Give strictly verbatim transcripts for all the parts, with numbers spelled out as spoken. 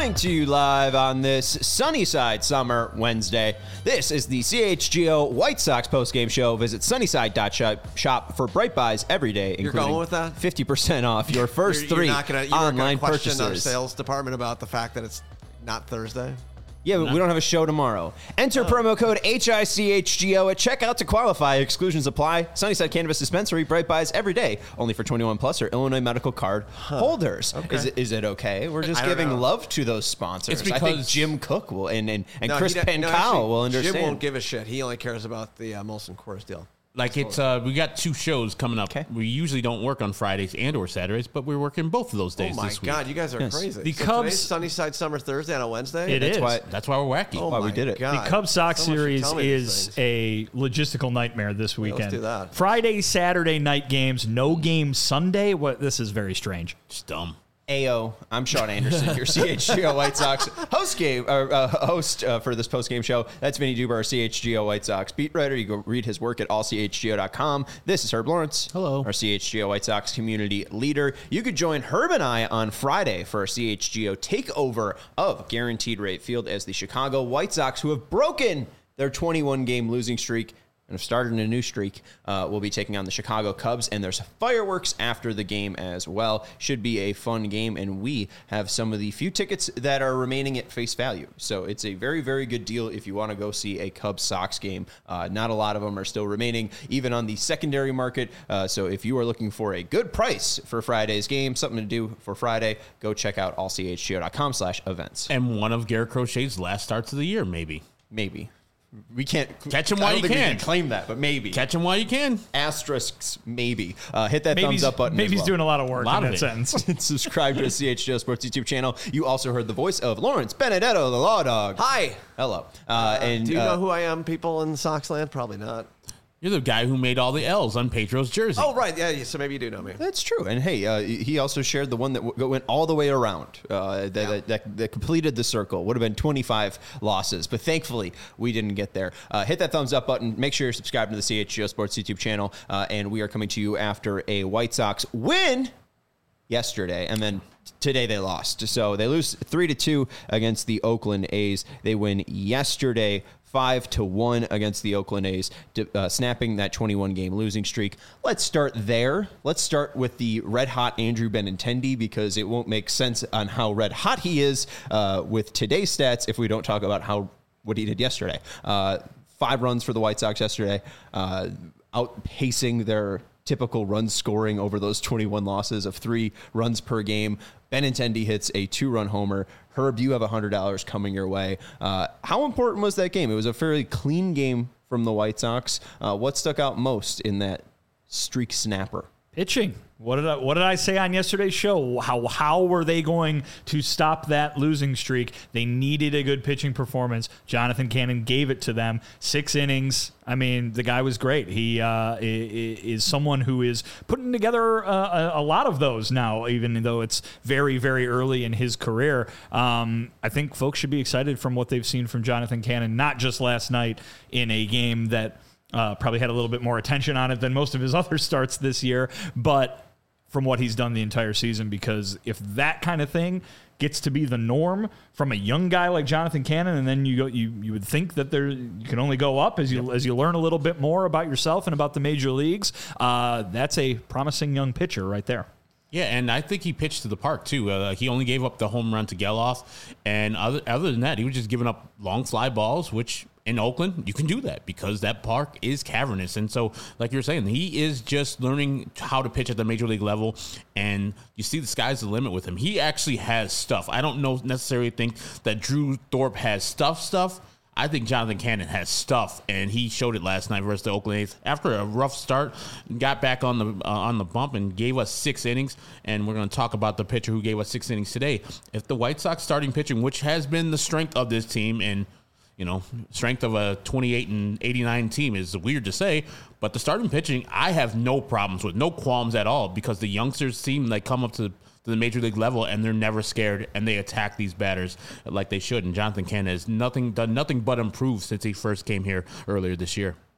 Coming to you live on this Sunnyside Summer Wednesday. This is the C H G O White Sox postgame show. Visit sunnyside dot shop for bright buys every day, You're including going with that? fifty percent off your first you're, three you're not gonna, you online gonna question purchases. our sales department about the fact that it's not Thursday? Yeah, but No. we don't have a show tomorrow. Enter Oh. promo code H I C H G O at checkout to qualify. Exclusions apply. Sunnyside Cannabis Dispensary, bright buys every day. Only for twenty-one plus or Illinois medical card holders. Okay. Is, it, is it okay? We're just I don't giving know. love to those sponsors. It's I think because- Jim Cook will and, and, and No, Chris he don't- no, Pancao actually, will understand. Jim won't give a shit. He only cares about the uh, Molson Coors deal. Like it's, uh, we got two shows coming up. Okay. We usually don't work on Fridays and or Saturdays, but we're working both of those days Oh my this week. God, you guys are Yes. crazy. The so Cubs- today's Sunnyside Summer Thursday on a Wednesday? It That's is. why- That's why we're wacky. Oh why my we did it. God. The Cubs Sox Someone should series tell me these is things. a logistical nightmare this weekend. let's do that. Friday, Saturday night games, no game Sunday. What? This is very strange. Just dumb. Ayo, I'm Sean Anderson, your C H G O White Sox host game or uh, host uh, for this post game show. That's Vinny Duber, our C H G O White Sox beat writer. You go read his work at all c h g o dot com. This is Herb Lawrence. Hello. Our C H G O White Sox community leader. You could join Herb and I on Friday for a C H G O takeover of Guaranteed Rate Field as the Chicago White Sox, who have broken their twenty-one game losing streak and have started a new streak, uh, will be taking on the Chicago Cubs, and there's fireworks after the game as well. Should be a fun game, and we have some of the few tickets that are remaining at face value. So it's a very, very good deal if you want to go see a Cubs-Sox game. Uh, not a lot of them are still remaining, even on the secondary market. Uh, so if you are looking for a good price for Friday's game, something to do for Friday, go check out all c h g o dot com slash events. And one of Garrett Crochet's last starts of the year, maybe. Maybe. We can't Catch 'em I while don't you think we can. claim that, but maybe. Catch him while you can. Asterisks, maybe. Uh, hit that Maybe thumbs he's, up button. maybe as he's well. doing a lot of work Lot in of that it. sentence. Subscribe to the C H G O Sports YouTube channel. You also heard the voice of Lawrence Benedetto, the Law Dog. Hi. Hello. Uh, and Do you uh, know who I am, people in Soxland? Probably not. You're the guy who made all the L's on Pedro's jersey. Oh, right. Yeah, yeah, so maybe you do know me. That's true. And hey, uh, he also shared the one that w- went all the way around, uh, that, Yeah. that, that, that completed the circle. Would have been twenty-five losses, but thankfully we didn't get there. Uh, hit that thumbs up button. Make sure you're subscribed to the C H G O Sports YouTube channel. Uh, and we are coming to you after a White Sox win yesterday, and then today they lost. So they lose three to two against the Oakland A's. They win yesterday five to one against the Oakland A's, uh, snapping that twenty-one game losing streak. Let's start there. Let's start with the red hot Andrew Benintendi, because it won't make sense on how red hot he is uh, with today's stats if we don't talk about how what he did yesterday. Uh, five runs for the White Sox yesterday, uh, outpacing their typical run scoring over those twenty-one losses of three runs per game. Benintendi hits a two-run homer. Herb, you have one hundred dollars coming your way. Uh, how important was that game? It was a fairly clean game from the White Sox. Uh, what stuck out most in that streak snapper? Pitching. What did I what did I say on yesterday's show? How how were they going to stop that losing streak? They needed a good pitching performance. Jonathan Cannon gave it to them. Six innings. I mean, the guy was great. He uh, is someone who is putting together uh, a, a lot of those now, even though it's very, very early in his career. Um, I think folks should be excited from what they've seen from Jonathan Cannon, not just last night in a game that uh, probably had a little bit more attention on it than most of his other starts this year, but from what he's done the entire season, because if that kind of thing gets to be the norm from a young guy like Jonathan Cannon, and then you go, you you would think that there you can only go up as you yep. as you learn a little bit more about yourself and about the major leagues. Uh, that's a promising young pitcher right there. Yeah, and I think he pitched to the park, too. Uh, he only gave up the home run to Geloff, and other, other than that, he was just giving up long fly balls, which in Oakland, you can do that because that park is cavernous. And so, like you're saying, he is just learning how to pitch at the major league level, and you see the sky's the limit with him. He actually has stuff. I don't know necessarily think that Drew Thorpe has stuff stuff. I think Jonathan Cannon has stuff, and he showed it last night versus the Oakland A's. After a rough start, got back on the uh, on the bump and gave us six innings, and we're going to talk about the pitcher who gave us six innings today. If the White Sox starting pitching, which has been the strength of this team, and you know, strength of a twenty-eight and eighty-nine team is weird to say, but the starting pitching, I have no problems with, no qualms at all, because the youngsters seem like come up to to the major league level, and they're never scared, and they attack these batters like they should. And Jonathan Cannon has nothing done nothing but improve since he first came here earlier this year.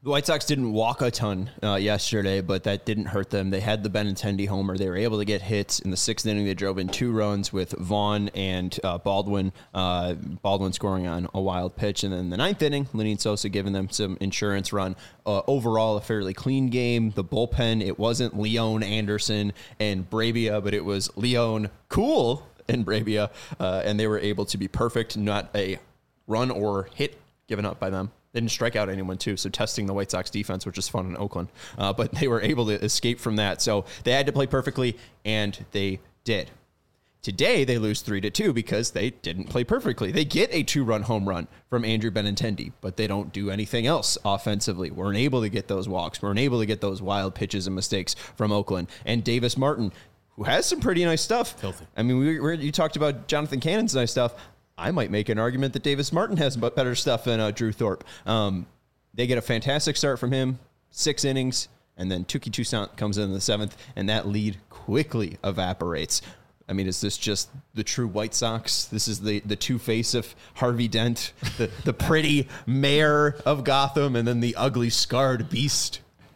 The White Sox didn't walk a ton uh, yesterday, but that didn't hurt them. They had the Benintendi homer. They were able to get hits. In the sixth inning, they drove in two runs with Vaughn and uh, Baldwin. Uh, Baldwin scoring on a wild pitch. And then in the ninth inning, Lenyn Sosa giving them some insurance run. Uh, overall, a fairly clean game. The bullpen, it wasn't Leon, Anderson, and Bravia, but it was Leon, Cool, and Bravia. Uh, and they were able to be perfect, not a run or hit given up by them. They didn't strike out anyone, too, so testing the White Sox defense, which is fun in Oakland. Uh, but they were able to escape from that. So they had to play perfectly, and they did. Today, they lose three to two because they didn't play perfectly. They get a two-run home run from Andrew Benintendi, but they don't do anything else offensively. Weren't able to get those walks. Weren't able to get those wild pitches and mistakes from Oakland. And Davis Martin, who has some pretty nice stuff. Filthy. I mean, we were, you talked about Jonathan Cannon's nice stuff. I might make an argument that Davis Martin has better stuff than uh, Drew Thorpe. Um, they get a fantastic start from him, six innings, and then Touki Toussaint comes in, in the seventh, and that lead quickly evaporates. I mean, is this just the true White Sox? This is the, the two-face of Harvey Dent, the, the pretty mayor of Gotham, and then the ugly, scarred beast.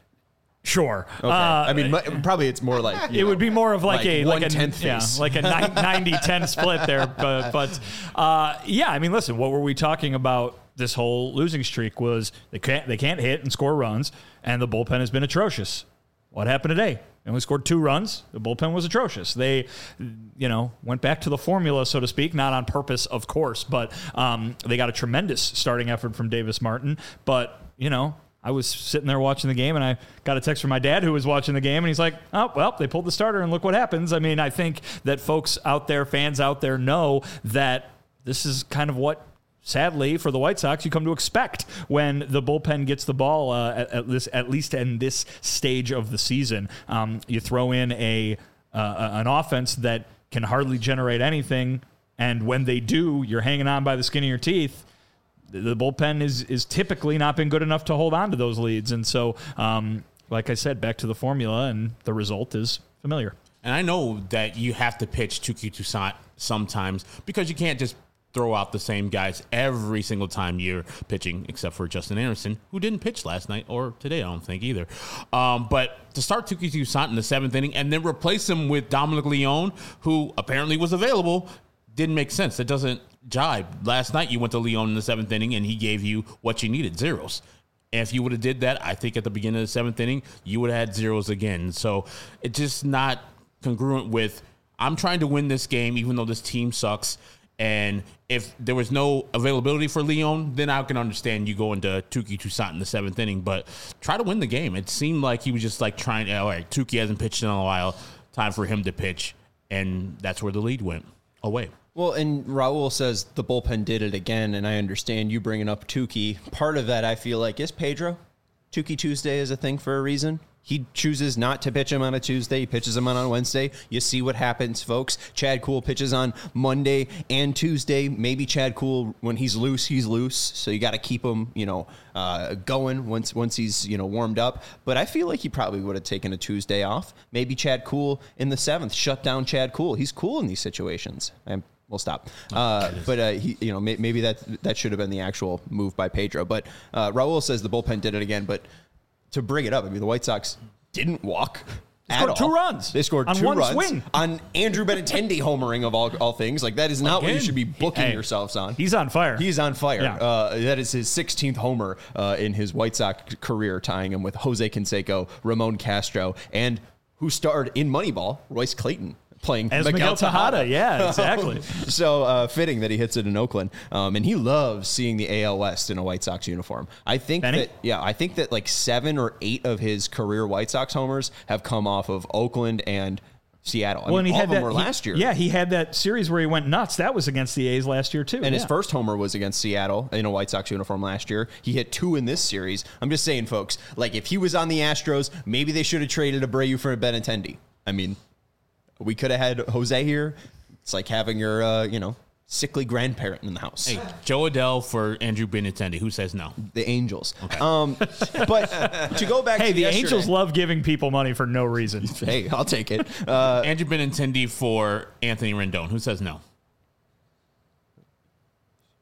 Sure. Okay. Uh, I mean, m- probably it's more like it know, would be more of like, like a like a tenth yeah, face. like a ninety ten split there. But but uh, yeah, I mean, listen, what were we talking about? This whole losing streak was they can't they can't hit and score runs, and the bullpen has been atrocious. What happened today? They only scored two runs. The bullpen was atrocious. They, you know, went back to the formula, so to speak, not on purpose, of course, but um, they got a tremendous starting effort from Davis Martin. But you know. I was sitting there watching the game, and I got a text from my dad who was watching the game, and he's like, oh, well, they pulled the starter, and look what happens. I mean, I think that folks out there, fans out there, know that this is kind of what, sadly, for the White Sox, you come to expect when the bullpen gets the ball, uh, at, at, this, at least in this stage of the season. Um, you throw in a uh, an offense that can hardly generate anything, and when they do, you're hanging on by the skin of your teeth. The bullpen is is typically not been good enough to hold on to those leads. And so, um, like I said, back to the formula, and the result is familiar. And I know that you have to pitch Touki Toussaint sometimes because you can't just throw out the same guys every single time you're pitching, except for Justin Anderson, who didn't pitch last night or today, I don't think either. Um, but to start Touki Toussaint in the seventh inning and then replace him with Dominic Leone, who apparently was available, didn't make sense. That doesn't jibe. Last night you went to Leone in the seventh inning and he gave you what you needed, zeros. And if you would have did that, I think at the beginning of the seventh inning, you would have had zeros again. So it's just not congruent with, I'm trying to win this game even though this team sucks. And if there was no availability for Leone, then I can understand you going to Touki Toussaint in the seventh inning. But try to win the game. It seemed like he was just like trying, all right, Touki hasn't pitched in a while. Time for him to pitch. And that's where the lead went away. Well, and Raul says the bullpen did it again, and I understand you bringing up Touki. Part of that, I feel like, is Pedro. Touki Tuesday is a thing for a reason. He chooses not to pitch him on a Tuesday. He pitches him on a Wednesday. You see what happens, folks. Chad Kuhl pitches on Monday and Tuesday. Maybe Chad Kuhl, when he's loose, he's loose. So you got to keep him, you know, uh, going once once he's, you know, warmed up. But I feel like he probably would have taken a Tuesday off. Maybe Chad Kuhl in the seventh. Shut down Chad Kuhl. He's cool in these situations. I'm We'll stop. Uh, but, uh, he, you know, may, maybe that that should have been the actual move by Pedro. But uh, Raul says the bullpen did it again. But to bring it up, I mean, the White Sox didn't walk They at scored all. two runs. They scored on two one runs swing. on Andrew Benintendi homering of all, all things. Like, that is not Again, what you should be booking hey, yourselves on. He's on fire. He's on fire. Yeah. Uh, that is his sixteenth homer uh, in his White Sox career, tying him with Jose Canseco, Ramon Castro, and who starred in Moneyball, Royce Clayton. Playing As Miguel, Miguel Tejada. Tejada. Yeah, exactly. So uh, fitting that he hits it in Oakland. Um, and he loves seeing the A L West in a White Sox uniform. I think Benny? that, yeah, I think that like seven or eight of his career White Sox homers have come off of Oakland and Seattle. I well, mean, and he all had of them that, were he, last year. Yeah, he had that series where he went nuts. That was against the A's last year, too. And yeah. his first homer was against Seattle in a White Sox uniform last year. He hit two in this series. I'm just saying, folks, like if he was on the Astros, maybe they should have traded Abreu for Benintendi. I mean, we could have had Jose here. It's like having your, uh, you know, sickly grandparent in the house. Hey, Joe Adell for Andrew Benintendi. Who says no? The Angels. Okay. Um, but to go back Hey, to the yesterday, Angels love giving people money for no reason. Hey, I'll take it. Uh, Andrew Benintendi for Anthony Rendon. Who says no?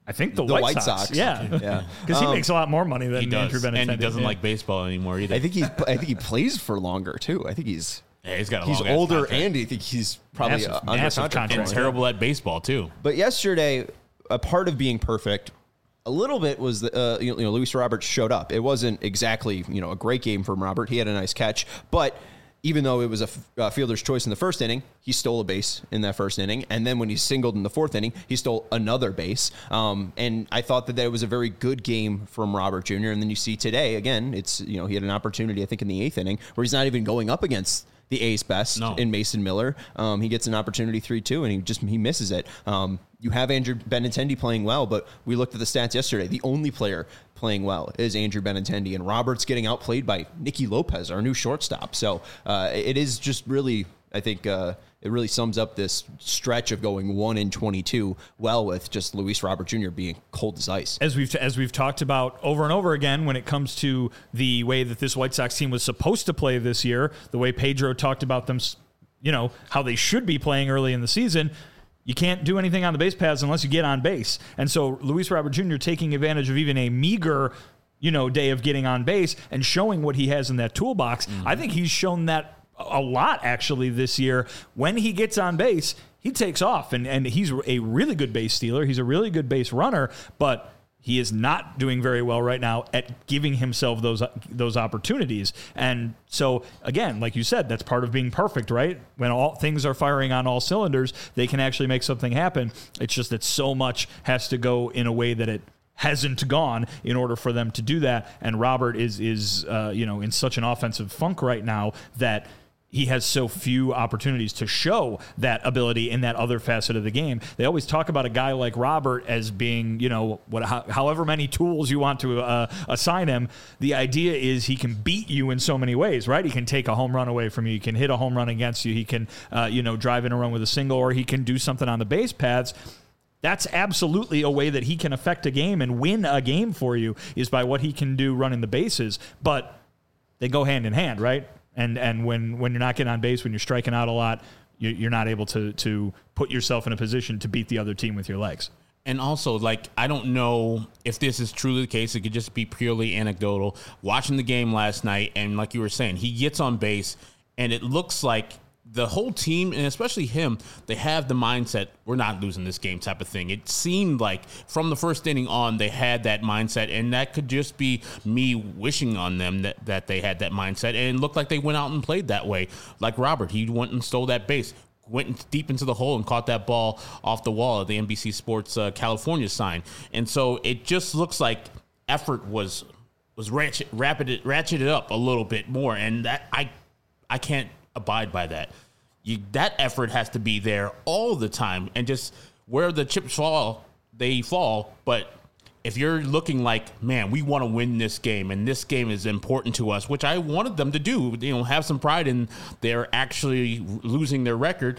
I think the, the White, White Sox. Sox. Yeah, yeah, because he um, makes a lot more money than he does, Andrew Benintendi. And he doesn't yeah. like baseball anymore either. I think he. I think he plays for longer too. I think he's. Yeah, he's got. A he's long-ass older, contract. and I think he's probably Massive- uh, under massive contract. contract. and terrible at baseball too. But yesterday, a part of being perfect, a little bit was that uh, you know Luis Robert showed up. It wasn't exactly you know a great game from Robert. He had a nice catch, but even though it was a f- uh, fielder's choice in the first inning, he stole a base in that first inning, and then when he singled in the fourth inning, he stole another base. Um, and I thought that that was a very good game from Robert Junior And then you see today again, it's you know he had an opportunity I think in the eighth inning where he's not even going up against the A's best No. in Mason Miller. Um, he gets an opportunity three two, and he just he misses it. Um, you have Andrew Benintendi playing well, but we looked at the stats yesterday. The only player playing well is Andrew Benintendi, and Robert's getting outplayed by Nicky Lopez, our new shortstop. So uh, it is just really, I think, uh, it really sums up this stretch of going one in twenty-two well with just Luis Robert Junior being cold as ice. As we've as we've talked about over and over again, when it comes to the way that this White Sox team was supposed to play this year, the way Pedro talked about them, you know, how they should be playing early in the season. You can't do anything on the base paths unless you get on base. And so Luis Robert Junior taking advantage of even a meager, you know, day of getting on base and showing what he has in that toolbox. Mm-hmm. I think he's shown that a lot actually this year. When he gets on base, he takes off, and, and he's a really good base stealer. He's a really good base runner, but he is not doing very well right now at giving himself those those opportunities. And so, again, like you said, that's part of being perfect, right? When all things are firing on all cylinders, they can actually make something happen. It's just that so much has to go in a way that it hasn't gone in order for them to do that. And Robert is, is uh, you know, in such an offensive funk right now that he has so few opportunities to show that ability in that other facet of the game. They always talk about a guy like Robert as being, you know, what, how, however many tools you want to uh, assign him. The idea is he can beat you in so many ways, right? He can take a home run away from you. He can hit a home run against you. He can, uh, you know, drive in a run with a single, or he can do something on the base paths. That's absolutely a way that he can affect a game and win a game for you, is by what he can do running the bases. But they go hand in hand, right? And and when, when you're not getting on base, when you're striking out a lot, you're not able to to put yourself in a position to beat the other team with your legs. And also, like, I don't know if this is truly the case. It could just be purely anecdotal. Watching the game last night, and like you were saying, he gets on base, and it looks like the whole team, and especially him, they have the mindset, we're not losing this game type of thing. It seemed like from the first inning on, they had that mindset, and that could just be me wishing on them that, that they had that mindset, and it looked like they went out and played that way. Like Robert, he went and stole that base, went deep into the hole and caught that ball off the wall of the N B C Sports uh, California sign. And so it just looks like effort was was ratchet, rapid, ratcheted up a little bit more, and that I I can't abide by that. You, that effort has to be there all the time, and just where the chips fall, they fall. But if you're looking like, man, we want to win this game, and this game is important to us, which I wanted them to do, you know, have some pride in they're actually losing their record.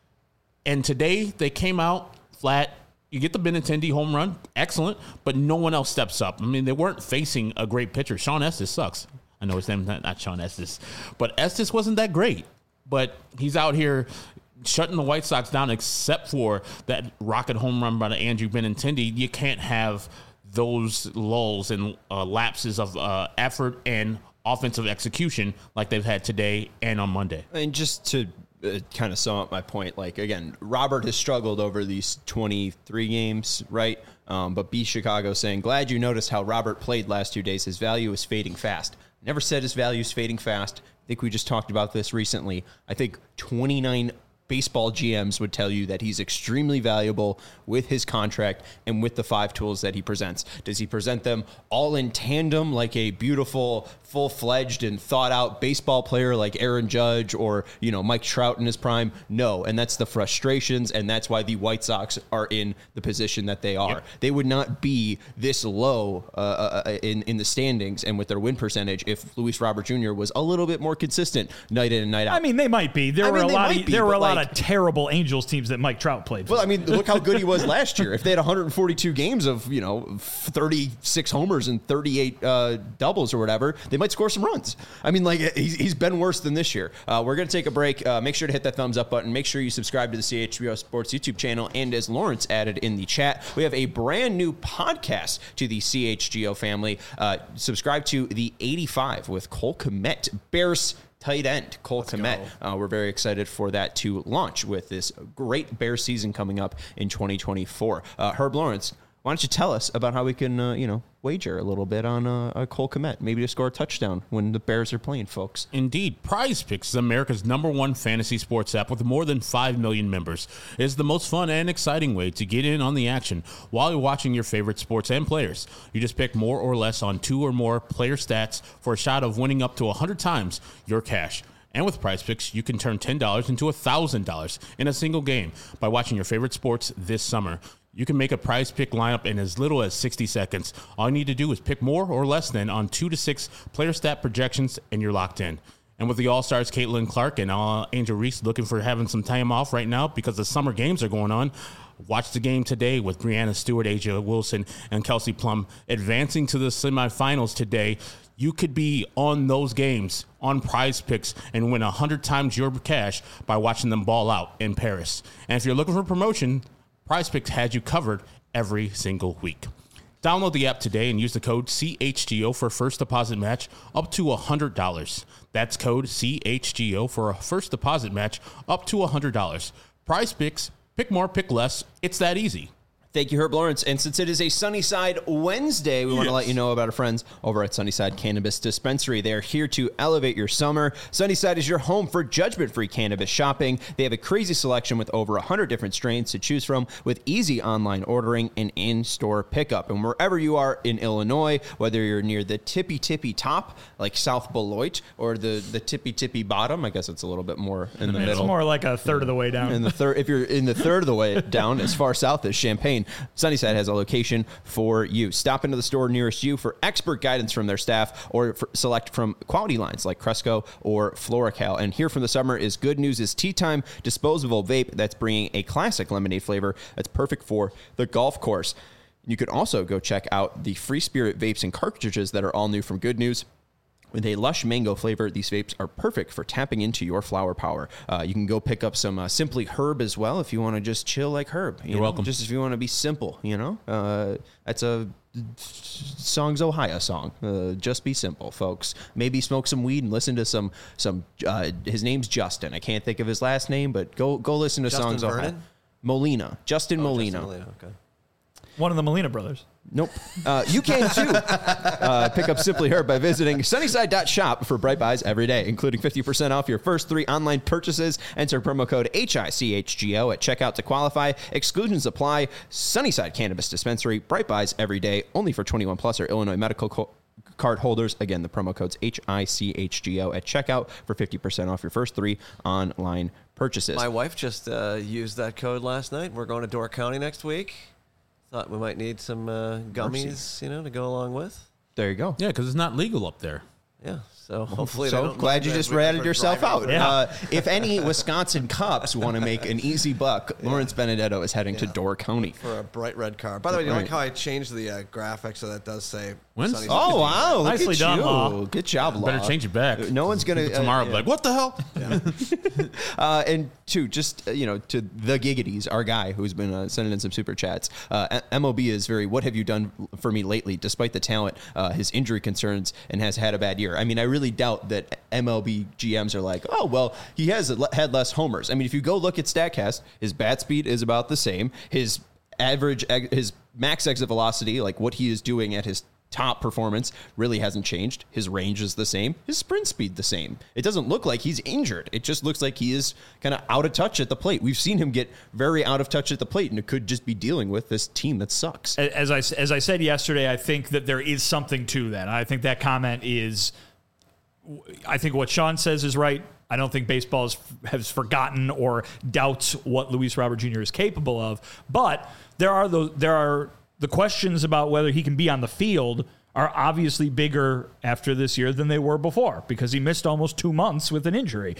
And today they came out flat. You get the Benintendi home run, excellent, but no one else steps up. I mean, they weren't facing a great pitcher. Sean Estes sucks. I know his name, not, not Sean Estes, but Estes wasn't that great. But he's out here shutting the White Sox down, except for that rocket home run by Andrew Benintendi. You can't have those lulls and uh, lapses of uh, effort and offensive execution like they've had today and on Monday. And just to uh, kind of sum up my point, like, again, Robert has struggled over these twenty-three games, right? Um, but B Chicago saying, glad you noticed how Robert played last two days. His value is fading fast. Never said his value is fading fast. I think we just talked about this recently. I think twenty-nine baseball G Ms would tell you that he's extremely valuable with his contract and with the five tools that he presents. Does he present them all in tandem like a beautiful, full-fledged and thought-out baseball player like Aaron Judge or, you know, Mike Trout in his prime? No, and that's the frustrations, and that's why the White Sox are in the position that they are. Yep. They would not be this low uh, in, in the standings and with their win percentage if Luis Robert Junior was a little bit more consistent night in and night out. I mean, they might be. There I were mean, a lot of be, there were a lot like, of terrible Angels teams that Mike Trout played for. Well, I mean, look how good he was last year. If they had one hundred forty-two games of, you know, thirty-six homers and thirty-eight uh, doubles or whatever, they might might score some runs. I mean, like, he's, he's been worse than this year. Uh, we're going to take a break. Uh, make sure to hit that thumbs up button. Make sure you subscribe to the C H G O Sports YouTube channel. And as Lawrence added in the chat, we have a brand new podcast to the C H G O family. Uh, subscribe to the eighty-five with Cole Kmet, Bears tight end, Cole Kmet. Uh, we're very excited for that to launch with this great Bears season coming up in twenty twenty-four. Uh, Herb Lawrence, why don't you tell us about how we can, uh, you know, wager a little bit on uh, a Cole Kmet, maybe to score a touchdown when the Bears are playing, folks. Indeed. Prize Picks is America's number one fantasy sports app with more than five million members. It is the most fun and exciting way to get in on the action while you're watching your favorite sports and players. You just pick more or less on two or more player stats for a shot of winning up to one hundred times your cash. And with Prize Picks, you can turn ten dollars into one thousand dollars in a single game by watching your favorite sports this summer. You can make a Prize Pick lineup in as little as sixty seconds. All you need to do is pick more or less than on two to six player stat projections, and you're locked in. And with the All-Stars Caitlin Clark and uh, Angel Reese looking for having some time off right now because the summer games are going on, watch the game today with Brianna Stewart, Asia Wilson, and Kelsey Plum advancing to the semifinals today. You could be on those games on Prize Picks and win one hundred times your cash by watching them ball out in Paris. And if you're looking for promotion, Prize Picks has you covered every single week. Download the app today and use the code C H G O for a first deposit match up to one hundred dollars. That's code C H G O for a first deposit match up to one hundred dollars. Prize Picks, pick more, pick less. It's that easy. Thank you, Herb Lawrence. And since it is a Sunnyside Wednesday, we yes. want to let you know about our friends over at Sunnyside Cannabis Dispensary. They are here to elevate your summer. Sunnyside is your home for judgment-free cannabis shopping. They have a crazy selection with over one hundred different strains to choose from with easy online ordering and in-store pickup. And wherever you are in Illinois, whether you're near the tippy-tippy top, like South Beloit, or the, the tippy-tippy bottom, I guess it's a little bit more in the it's middle. It's more like a third of the way down. In the third, if you're in the third of the way down, as far south as Champaign, Sunnyside has a location for you. Stop into the store nearest you for expert guidance from their staff or for select from quality lines like Cresco or Floracal. And here from the summer is Good News is Tea Time disposable vape that's bringing a classic lemonade flavor that's perfect for the golf course. You could also go check out the Free Spirit vapes and cartridges that are all new from Good News. With a lush mango flavor, these vapes are perfect for tapping into your flower power. Uh, you can go pick up some uh, Simply Herb as well if you want to just chill like Herb. You You're know? welcome. Just if you want to be simple, you know? Uh, that's a Songs Ohio song. Uh, just be simple, folks. Maybe smoke some weed and listen to some, some uh, his name's Justin. I can't think of his last name, but go go listen to Justin Songs Vernon? Ohio. Molina. Justin Oh, Molina. Justin Molina. Okay. One of the Molina brothers. Nope. Uh, you can, too. Uh, pick up Simply Herb by visiting sunnyside dot shop for bright buys every day, including fifty percent off your first three online purchases. Enter promo code H I C H G O at checkout to qualify. Exclusions apply. Sunnyside Cannabis Dispensary. Bright buys every day, only for twenty-one plus or Illinois medical co- card holders. Again, the promo code's H I C H G O at checkout for fifty percent off your first three online purchases. My wife just uh, used that code last night. We're going to Door County next week. Thought we might need some uh, gummies, Mercy. you know, to go along with. There you go. Yeah, because it's not legal up there. Yeah, so hopefully so they don't glad you just ratted yourself out. Yeah. Uh, if any Wisconsin cops want to make an easy buck, yeah. Lawrence Benedetto is heading yeah. to Door County for a bright red car. By the way, do you right. like how I changed the uh, graphic so that does say? When's- Oh wow! Look Nicely at done, you. Law. Good job, Law. Better change it back. No one's gonna Tomorrow, uh, be yeah. like, what the hell? Yeah. Uh, and two, just uh, you know, to the Giggities, our guy who's been uh, sending in some super chats. Uh, M O B is very. What have you done for me lately? Despite the talent, uh, his injury concerns, and has had a bad year. I mean, I really doubt that M L B G Ms are like, oh well, he has had less homers. I mean, if you go look at Statcast, his bat speed is about the same. His average, his max exit velocity, like what he is doing at his top performance, really hasn't changed. His range is the same. His sprint speed the same. It doesn't look like he's injured. It just looks like he is kind of out of touch at the plate. We've seen him get very out of touch at the plate, and it could just be dealing with this team that sucks. As I, as I said yesterday, I think that there is something to that. I think that comment is, I think what Sean says is right. I don't think baseball has, has forgotten or doubts what Luis Robert Junior is capable of. But there are those, there are the questions about whether he can be on the field are obviously bigger after this year than they were before because he missed almost two months with an injury.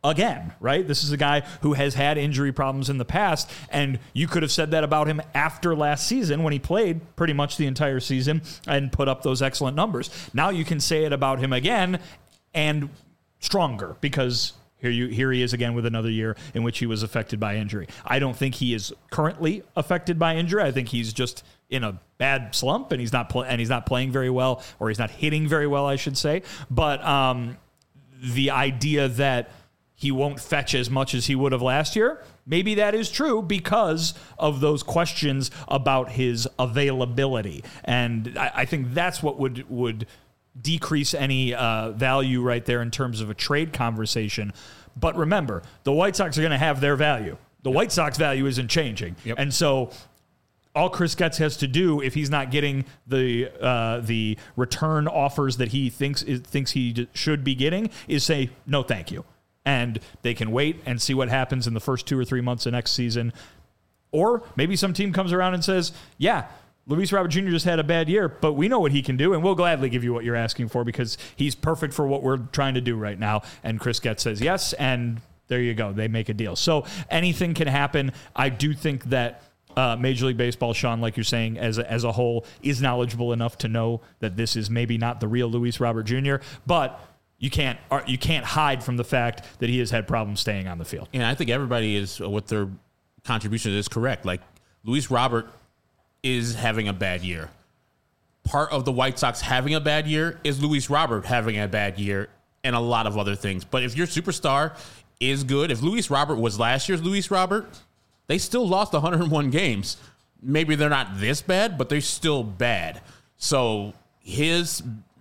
again, right? This is a guy who has had injury problems in the past, and you could have said that about him after last season when he played pretty much the entire season and put up those excellent numbers. Now you can say it about him again and stronger, because here you here he is again with another year in which he was affected by injury. I don't think he is currently affected by injury. I think he's just in a bad slump, and he's not pl- and he's not playing very well, or he's not hitting very well, I should say. But um, the idea that he won't fetch as much as he would have last year, maybe that is true because of those questions about his availability. And I, I think that's what would would decrease any uh, value right there in terms of a trade conversation. But remember, the White Sox are going to have their value. The White Sox value isn't changing. Yep. And so all Chris Getz has to do, if he's not getting the uh, the return offers that he thinks is, thinks he d- should be getting, is say, no, thank you. And they can wait and see what happens in the first two or three months of next season. Or maybe some team comes around and says, yeah, Luis Robert Junior just had a bad year, but we know what he can do, and we'll gladly give you what you're asking for because he's perfect for what we're trying to do right now. And Chris Getz says yes, and there you go. They make a deal. So anything can happen. I do think that uh, Major League Baseball, Sean, like you're saying, as a, as a whole, is knowledgeable enough to know that this is maybe not the real Luis Robert Junior, but you can't you can't hide from the fact that he has had problems staying on the field. And I think everybody is, with their contribution is correct. Like, Luis Robert is having a bad year. Part of the White Sox having a bad year is Luis Robert having a bad year and a lot of other things. But if your superstar is good, if Luis Robert was last year's Luis Robert, they still lost one hundred one games. Maybe they're not this bad, but they're still bad. So his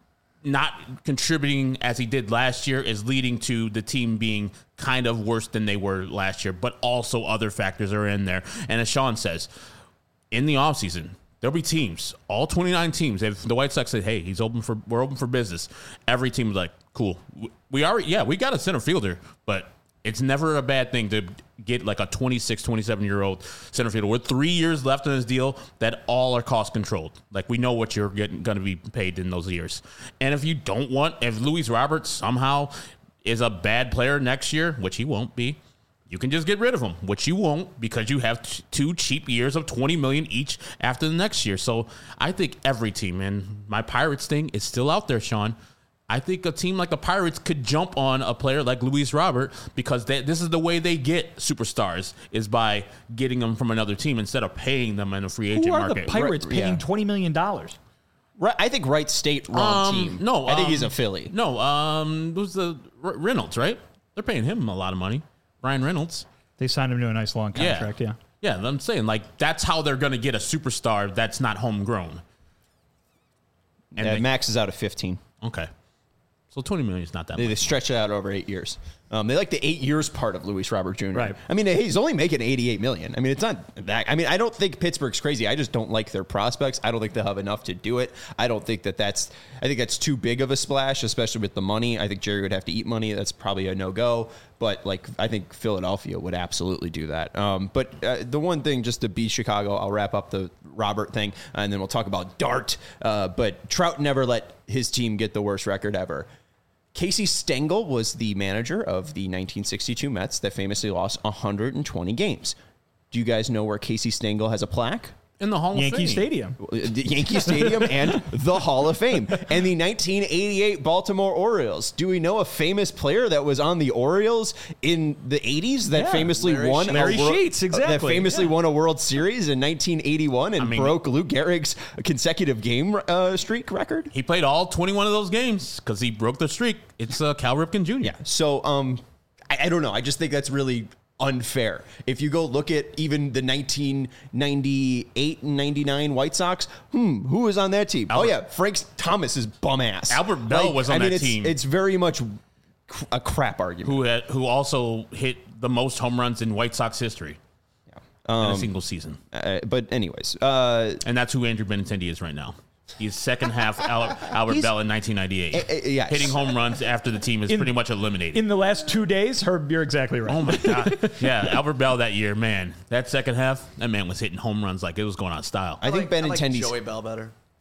not contributing as he did last year is leading to the team being kind of worse than they were last year, but also other factors are in there. And as Sean says, in the offseason, there'll be teams, all twenty-nine teams. If the White Sox said, hey, he's open for, we're open for business, every team is like, cool. We already, yeah, we got a center fielder, but it's never a bad thing to get like a twenty-six, twenty-seven-year-old center fielder with three years left on his deal that all are cost controlled. Like, we know what you're getting going to be paid in those years. And if you don't want, if Luis Roberts somehow is a bad player next year, which he won't be, you can just get rid of him, which you won't because you have t- two cheap years of twenty million dollars each after the next year. So I think every team, and my Pirates thing is still out there, Sean. I think a team like the Pirates could jump on a player like Luis Robert because they, this is the way they get superstars, is by getting them from another team instead of paying them in a free agent Who are market. the Pirates Right, paying yeah. twenty million dollars? Right, I think Wright State wrong Um, team. no, I think um, he's a Philly. No, um, who's the R- Reynolds, right? They're paying him a lot of money. Ryan Reynolds. They signed him to a nice long contract, yeah. Yeah, I'm saying, like, that's how they're going to get a superstar that's not homegrown. And Yeah, they- Max is out of fifteen. Okay. So twenty million is not that They, they much. stretch it out over eight years. Um, they like the eight years part of Luis Robert Junior Right. I mean, he's only making eighty-eight million. I mean, it's not that. I mean, I don't think Pittsburgh's crazy. I just don't like their prospects. I don't think they'll have enough to do it. I don't think that that's. I think that's too big of a splash, especially with the money. I think Jerry would have to eat money. That's probably a no go. But like, I think Philadelphia would absolutely do that. Um, but uh, the one thing, just to be Chicago, I'll wrap up the Robert thing, and then we'll talk about Dart. Uh, but Trout never let his team get the worst record ever. Casey Stengel was the manager of the nineteen sixty-two Mets that famously lost one hundred twenty games. Do you guys know where Casey Stengel has a plaque? In the Hall of Yankee Fame. Stadium. The Yankee Stadium and the Hall of Fame. And the nineteen eighty-eight Baltimore Orioles. Do we know a famous player that was on the Orioles in the eighties that Yeah, famously Larry won Sheets. a Larry World- Sheets, exactly, that famously yeah. won a World Series in nineteen eighty-one and I mean- broke Lou Gehrig's consecutive game uh, streak record? He played all twenty-one of those games because he broke the streak. It's uh, Cal Ripken Junior Yeah. So, um, I, I don't know. I just think that's really unfair. If you go look at even the nineteen ninety-eight and ninety-nine White Sox, hmm, who was on that team? Albert- oh yeah, Frank Thomas is bum ass. Albert Bell was on I mean, that it's, team. It's very much cr- a crap argument. Who had, who also hit the most home runs in White Sox history in a single season. Uh, but anyways, uh, And that's who Andrew Benintendi is right now. He's second half Al- Albert He's- Bell in nineteen ninety-eight. Uh, uh, yes. Hitting home runs after the team is In- pretty much eliminated. In the last two days, Herb, you're exactly right. Oh my God. Yeah, Albert Bell that year, man. That second half, that man was hitting home runs like it was going on style. I think like, I like Benintendi's. Joey Bell better.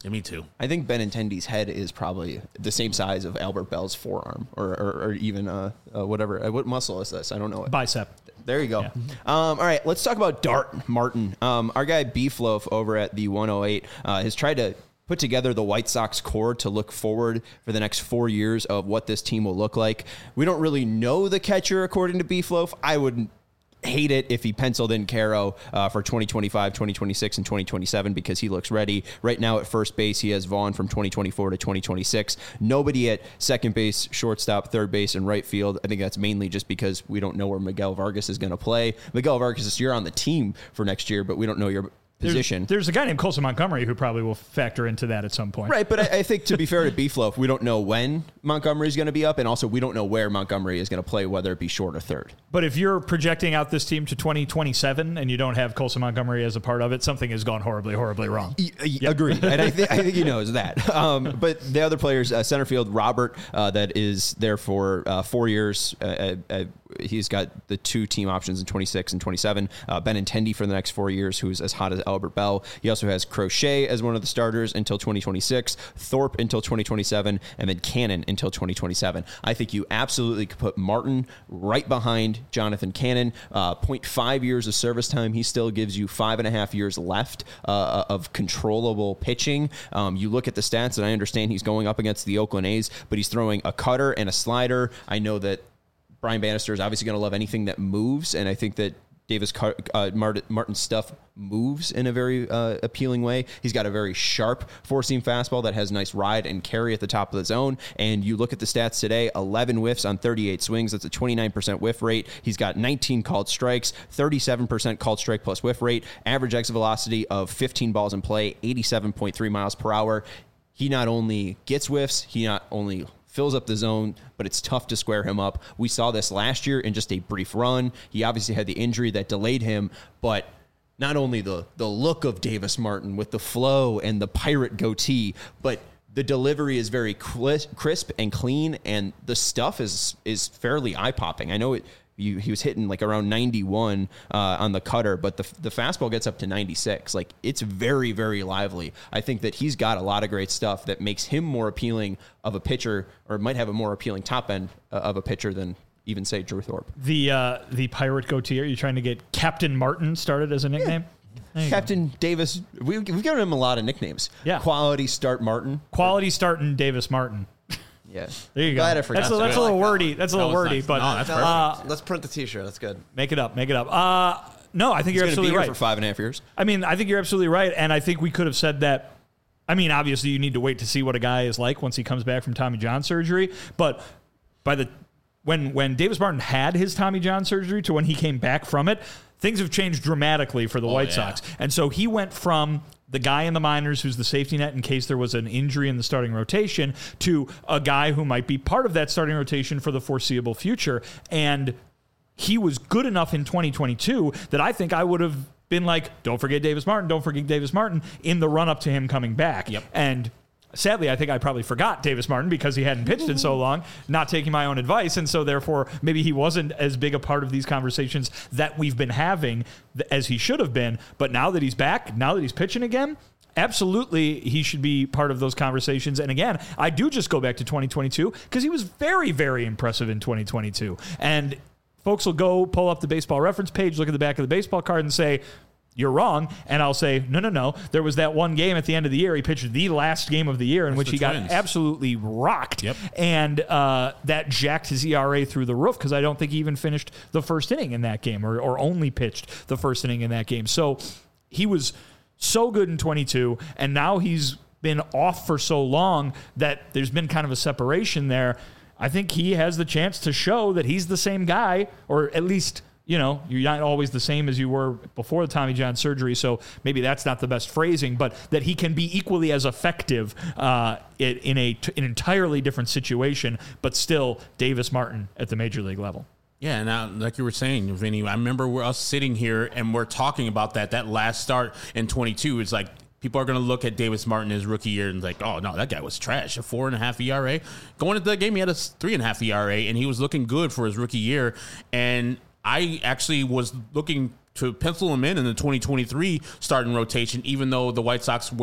Yeah, me too. I think Benintendi's head is probably the same size of Albert Bell's forearm, or or, or even uh, uh, whatever. Uh, what muscle is this? I don't know. It. Bicep. There you go. Yeah. Um, all right, let's talk about Dart Martin. Um, our guy Beefloaf over at the one oh eight uh, has tried to put together the White Sox core to look forward for the next four years of what this team will look like. We don't really know the catcher, according to Beefloaf. I wouldn't hate it if he penciled in Caro uh, for twenty twenty-five, twenty twenty-six, and twenty twenty-seven because he looks ready. Right now at first base, he has Vaughn from twenty twenty-four to twenty twenty-six. Nobody at second base, shortstop, third base, and right field. I think that's mainly just because we don't know where Miguel Vargas is going to play. Miguel Vargas, you're on the team for next year, but we don't know your position. There's, there's a guy named Colson Montgomery who probably will factor into that at some point. Right, but I, I think to be fair to Beefloaf, we don't know when Montgomery is going to be up, and also we don't know where Montgomery is going to play, whether it be short or third. But if you're projecting out this team to twenty twenty-seven and you don't have Colson Montgomery as a part of it, something has gone horribly, horribly wrong. Y- y- yep. Agreed, and I, th- I think he knows that. Um, but the other players, uh, center field, Robert, uh, that is there for uh, four years. Uh, uh, he's got the two team options in twenty-six and twenty-seven. Uh, Benintendi for the next four years, who's as hot as Albert Bell. He also has Crochet as one of the starters until twenty twenty-six, Thorpe until twenty twenty-seven, and then Cannon until twenty twenty-seven. I think you absolutely could put Martin right behind Jonathan Cannon. Uh, zero point five years of service time. He still gives you five and a half years left uh, of controllable pitching. Um, you look at the stats, and I understand he's going up against the Oakland A's, but he's throwing a cutter and a slider. I know that Brian Bannister is obviously going to love anything that moves, and I think that Davis uh, Martin, Martin's stuff moves in a very uh, appealing way. He's got a very sharp four-seam fastball that has nice ride and carry at the top of the zone. And you look at the stats today, eleven whiffs on thirty-eight swings. That's a twenty-nine percent whiff rate. He's got nineteen called strikes, thirty-seven percent called strike plus whiff rate, average exit velocity of fifteen balls in play, eighty-seven point three miles per hour. He not only gets whiffs, he not only fills up the zone, but it's tough to square him up. We saw this last year in just a brief run. He obviously had the injury that delayed him, but not only the the look of Davis Martin with the flow and the pirate goatee, but the delivery is very crisp and clean, and the stuff is is fairly eye-popping. I know it. You, he was hitting like around ninety-one uh, on the cutter, but the the fastball gets up to ninety-six. Like, it's very, very lively. I think that he's got a lot of great stuff that makes him more appealing of a pitcher, or might have a more appealing top end uh, of a pitcher than even, say, Drew Thorpe. The uh, the pirate goatee, are you trying to get Captain Martin started as a nickname? Yeah. Captain go. Davis. We, we've given him a lot of nicknames. Yeah. Quality Start Martin. Quality Startin' Davis Martin. Yeah. There you Glad go. I forgot. That's a, that's a little wordy. That's a little That was wordy, nice. but No, that's perfect. uh, Let's print the T-shirt. That's good. make it up. Make it up. Uh, no, I think He's you're going to be absolutely here right. for five and a half years. I mean, I think you're absolutely right, and I think we could have said that. I mean, obviously, you need to wait to see what a guy is like once he comes back from Tommy John surgery. But by the when when Davis Martin had his Tommy John surgery to when he came back from it, things have changed dramatically for the White yeah. Sox, and so he went from the guy in the minors who's the safety net in case there was an injury in the starting rotation to a guy who might be part of that starting rotation for the foreseeable future. And he was good enough in twenty twenty-two that I think I would have been like, don't forget Davis Martin, don't forget Davis Martin in the run up to him coming back. Yep. And sadly, I think I probably forgot Davis Martin because he hadn't pitched in so long, not taking my own advice. And so therefore, maybe he wasn't as big a part of these conversations that we've been having as he should have been. But now that he's back, now that he's pitching again, absolutely he should be part of those conversations. And again, I do just go back to twenty twenty-two because he was very, very impressive in twenty twenty-two. And folks will go pull up the baseball reference page, look at the back of the baseball card and say, you're wrong. And I'll say, no, no, no. There was that one game at the end of the year. He pitched the last game of the year in That's which the he Twins. got absolutely rocked. Yep. And uh, that jacked his E R A through the roof because I don't think he even finished the first inning in that game or, or only pitched the first inning in that game. So he was so good in twenty-two, and now he's been off for so long that there's been kind of a separation there. I think he has the chance to show that he's the same guy, or at least, you know, you're not always the same as you were before the Tommy John surgery, so maybe that's not the best phrasing, but that he can be equally as effective uh, in, in a, an entirely different situation, but still Davis Martin at the major league level. Yeah, and uh, like you were saying, Vinny, I remember we're us sitting here and we're talking about that. That last start in twenty-two is like, people are going to look at Davis Martin his rookie year and like, oh, no, that guy was trash. A four and a half E R A. Going into the game, he had a three and a half E R A, and he was looking good for his rookie year. And I actually was looking to pencil him in in the twenty twenty-three starting rotation, even though the White Sox were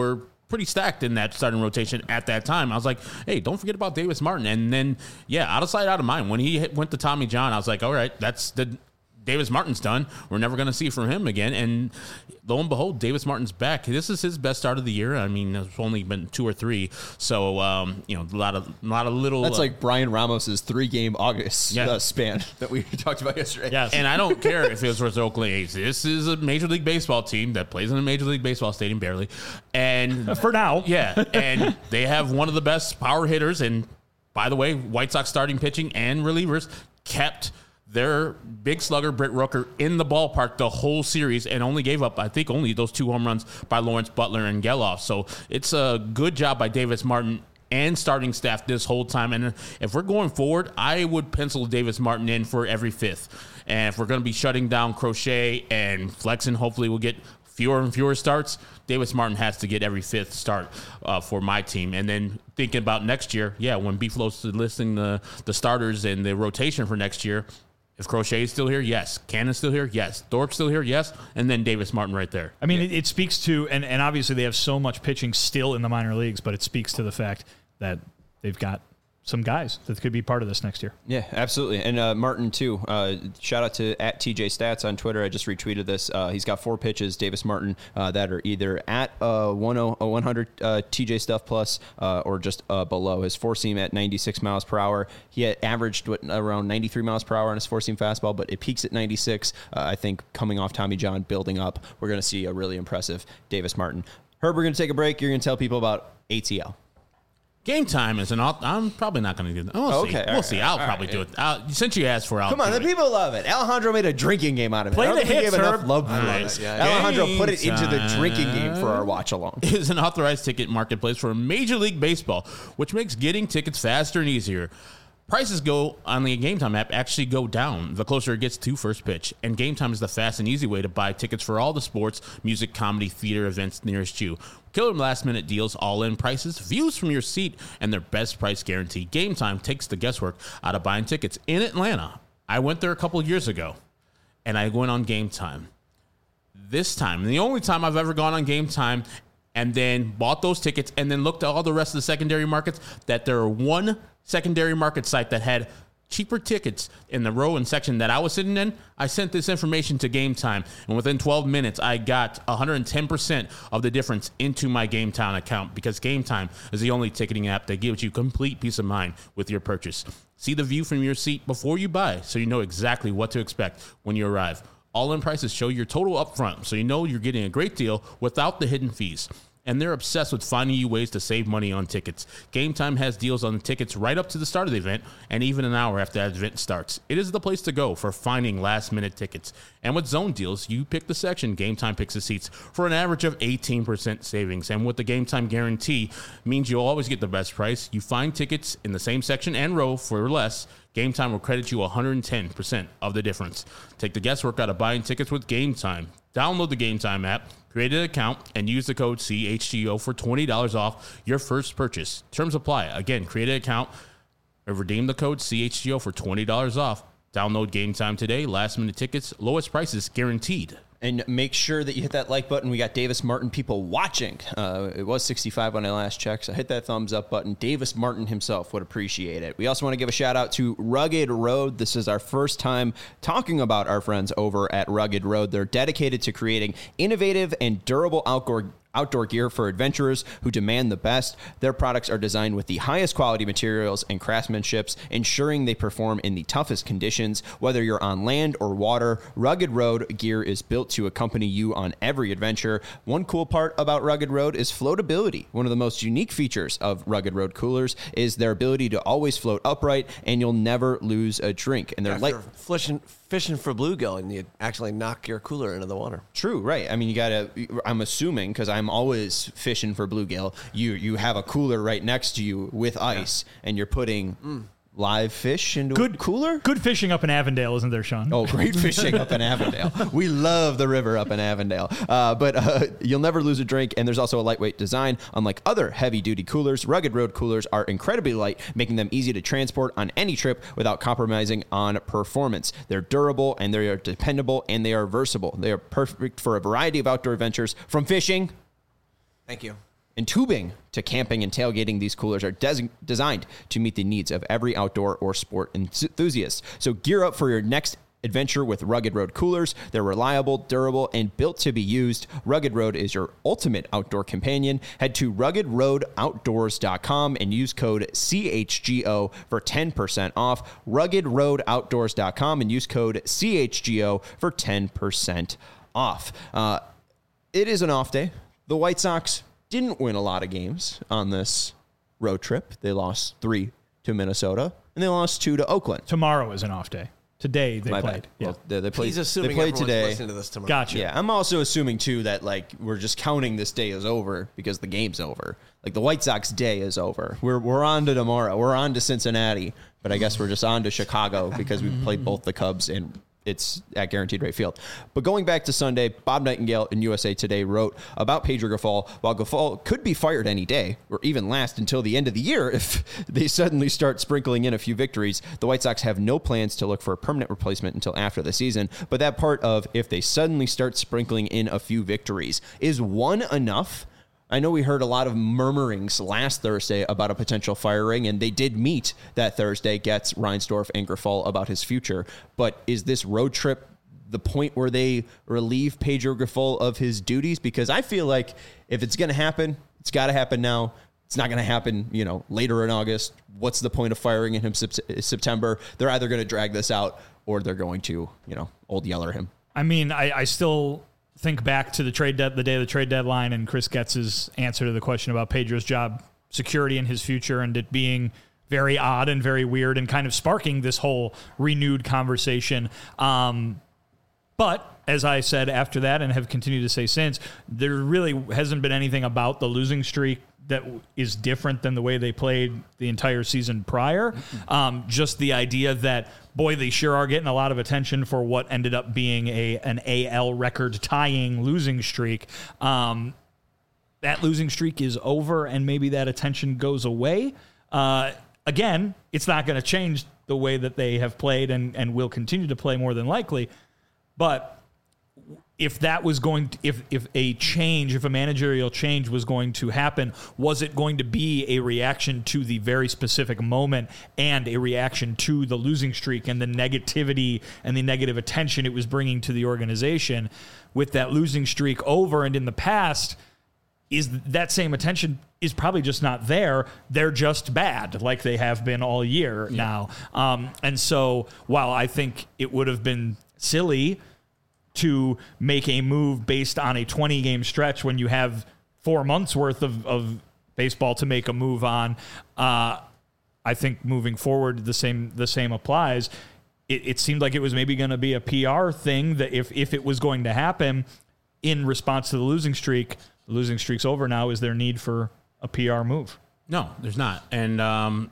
pretty stacked in that starting rotation at that time. I was like, hey, don't forget about Davis Martin. And then, yeah, out of sight, out of mind. When he hit, went to Tommy John, I was like, all right, that's the Davis Martin's done. We're never going to see from him again. And lo and behold, Davis Martin's back. This is his best start of the year. I mean, it's only been two or three. So, um, you know, a lot of a lot of little. That's uh, like Brian Ramos's three-game August Yeah. uh, span that we talked about yesterday. Yes. And I don't care if it was versus Oakland A's. This is a Major League Baseball team that plays in a Major League Baseball stadium, barely. And For now. yeah, and they have one of the best power hitters. And by the way, White Sox starting pitching and relievers kept their big slugger, Britt Rooker, in the ballpark the whole series and only gave up, I think, only those two home runs by Lawrence Butler and Geloff. So it's a good job by Davis Martin and starting staff this whole time. And if we're going forward, I would pencil Davis Martin in for every fifth. And if we're going to be shutting down Crochet and Flexen, hopefully we'll get fewer and fewer starts. Davis Martin has to get every fifth start uh, for my team. And then thinking about next year, yeah, when B-Flow's listing the, the starters and the rotation for next year, if Crochet is still here, yes. Cannon's still here, yes. Thorpe's still here, yes. And then Davis Martin right there. I mean, it, it speaks to, and, and obviously they have so much pitching still in the minor leagues, but it speaks to the fact that they've got some guys that could be part of this next year. Yeah, absolutely. And uh, Martin, too. Uh, shout out to at T J Stats on Twitter. I just retweeted this. Uh, he's got four pitches, Davis Martin, uh, that are either at uh, one hundred uh, T J Stuff plus uh, or just uh, below. His four seam at ninety-six miles per hour. He had averaged what, around ninety-three miles per hour on his four seam fastball, but it peaks at ninety-six. Uh, I think coming off Tommy John, building up, we're going to see a really impressive Davis Martin. Herb, we're going to take a break. You're going to tell people about A T L. Game time is an. I'm probably not going to do that. We'll Okay, see. all We'll right, see. all I'll right, probably all do right. it. I'll, since you asked for, I'll Come on, do the it. people love it. Alejandro made a drinking game out of it. Play I don't the think he hits, gave enough Herb. love for All it. right. Yeah, Alejandro Game put it into the time drinking game for our watch along. Is an authorized ticket marketplace for Major League Baseball, which makes getting tickets faster and easier. Prices go on the Game Time app actually go down the closer it gets to first pitch. And Game Time is the fast and easy way to buy tickets for all the sports, music, comedy, theater events nearest you. Killer last minute deals, all in prices, views from your seat, and their best price guarantee. Game Time takes the guesswork out of buying tickets in Atlanta. I went there a couple years ago and I went on Game Time. This time, the only time I've ever gone on Game Time and then bought those tickets and then looked at all the rest of the secondary markets, that there are one secondary market site that had cheaper tickets in the row and section that I was sitting in. I sent this information to Game Time, and within twelve minutes, I got one hundred ten percent of the difference into my Game Time account, because Game Time is the only ticketing app that gives you complete peace of mind with your purchase. See the view from your seat before you buy, so you know exactly what to expect when you arrive. All-in prices show your total upfront, so you know you're getting a great deal without the hidden fees. And they're obsessed with finding you ways to save money on tickets. Game Time has deals on the tickets right up to the start of the event and even an hour after that event starts. It is the place to go for finding last-minute tickets. And with zone deals, you pick the section, Game Time picks the seats for an average of eighteen percent savings. And with the Game Time guarantee, means you'll always get the best price. You find tickets in the same section and row for less. Game Time will credit you one hundred ten percent of the difference. Take the guesswork out of buying tickets with Game Time. Download the Game Time app, create an account, and use the code C H G O for twenty dollars off your first purchase. Terms apply. Again, create an account or redeem the code C H G O for twenty dollars off. Download Game Time today. Last minute tickets, lowest prices guaranteed. And make sure that you hit that like button. We got Davis Martin people watching. Uh, it was sixty-five when I last checked, so hit that thumbs up button. Davis Martin himself would appreciate it. We also want to give a shout out to Rugged Road. This is our first time talking about our friends over at Rugged Road. They're dedicated to creating innovative and durable outdoor outdoor gear for adventurers who demand the best. Their products are designed with the highest quality materials and craftsmanships, ensuring they perform in the toughest conditions. Whether you're on land or water, Rugged Road gear is built to accompany you on every adventure. One cool part about Rugged Road is floatability. One of the most unique features of Rugged Road coolers is their ability to always float upright, and you'll never lose a drink. And they're If light. you're fishing, fishing for bluegill and you actually knock your cooler into the water. True, right. I mean, you gotta, I'm assuming, because I'm always fishing for bluegill, you you have a cooler right next to you with ice, yeah. and you're putting mm. live fish into good a cooler? Good fishing up in Avondale, isn't there, Sean? Oh, great fishing up in Avondale. We love the river up in Avondale. Uh, but uh, you'll never lose a drink, and there's also a lightweight design. Unlike other heavy-duty coolers, Rugged Road coolers are incredibly light, making them easy to transport on any trip without compromising on performance. They're durable, and they are dependable, and they are versatile. They are perfect for a variety of outdoor adventures, from fishing... Thank you. and tubing to camping and tailgating, these coolers are des- designed to meet the needs of every outdoor or sport enthusiast. So gear up for your next adventure with Rugged Road coolers. They're reliable, durable, and built to be used. Rugged Road is your ultimate outdoor companion. Head to rugged road outdoors dot com and use code C H G O for ten percent off. rugged road outdoors dot com and use code C H G O for ten percent off. Uh, it is an off day. The White Sox didn't win a lot of games on this road trip. They lost three to Minnesota, and they lost two to Oakland. Tomorrow is an off day. Today they My played. bad. Yeah. Well, they, they played. He's assuming they played everyone's today. listening to this tomorrow. Gotcha. Yeah, I'm also assuming too that like we're just counting this day as over because the game's over. Like the White Sox day is over. We're we're on to tomorrow. We're on to Cincinnati, but I guess we're just on to Chicago because we played both the Cubs and it's at Guaranteed Rate Field. But going back to Sunday, Bob Nightingale in U S A Today wrote about Pedro Grifol. While Grifol could be fired any day or even last until the end of the year if they suddenly start sprinkling in a few victories, the White Sox have no plans to look for a permanent replacement until after the season. But that part of if they suddenly start sprinkling in a few victories, is one enough? I know we heard a lot of murmurings last Thursday about a potential firing, and they did meet that Thursday, Getz, Reinsdorf, and Grifol about his future. But is this road trip the point where they relieve Pedro Grifol of his duties? Because I feel like if it's going to happen, it's got to happen now. It's not going to happen, you know, later in August. What's the point of firing him in September? They're either going to drag this out or they're going to, you know, old yeller him. I mean, I, I still think back to the trade de- the day of the trade deadline and Chris Getz's answer to the question about Pedro's job security and his future, and it being very odd and very weird and kind of sparking this whole renewed conversation. Um, but as I said after that and have continued to say since, there really hasn't been anything about the losing streak that is different than the way they played the entire season prior. Um, just the idea that, boy, they sure are getting a lot of attention for what ended up being a an A L record-tying losing streak. Um, that losing streak is over, and maybe that attention goes away. Uh, again, it's not going to change the way that they have played and, and will continue to play more than likely. But if that was going to, if, if a change, if a managerial change was going to happen, was it going to be a reaction to the very specific moment and a reaction to the losing streak and the negativity and the negative attention it was bringing to the organization? With that losing streak over and in the past, is that same attention is probably just not there. They're just bad, like they have been all year yeah. now. Um, and so while I think it would have been silly to make a move based on a twenty-game stretch when you have four months worth of, of baseball to make a move on, uh, I think moving forward the same the same applies. It, it seemed like it was maybe going to be a P R thing that if if it was going to happen in response to the losing streak, the losing streak's over now. Is there need for a P R move? No, there's not. And um,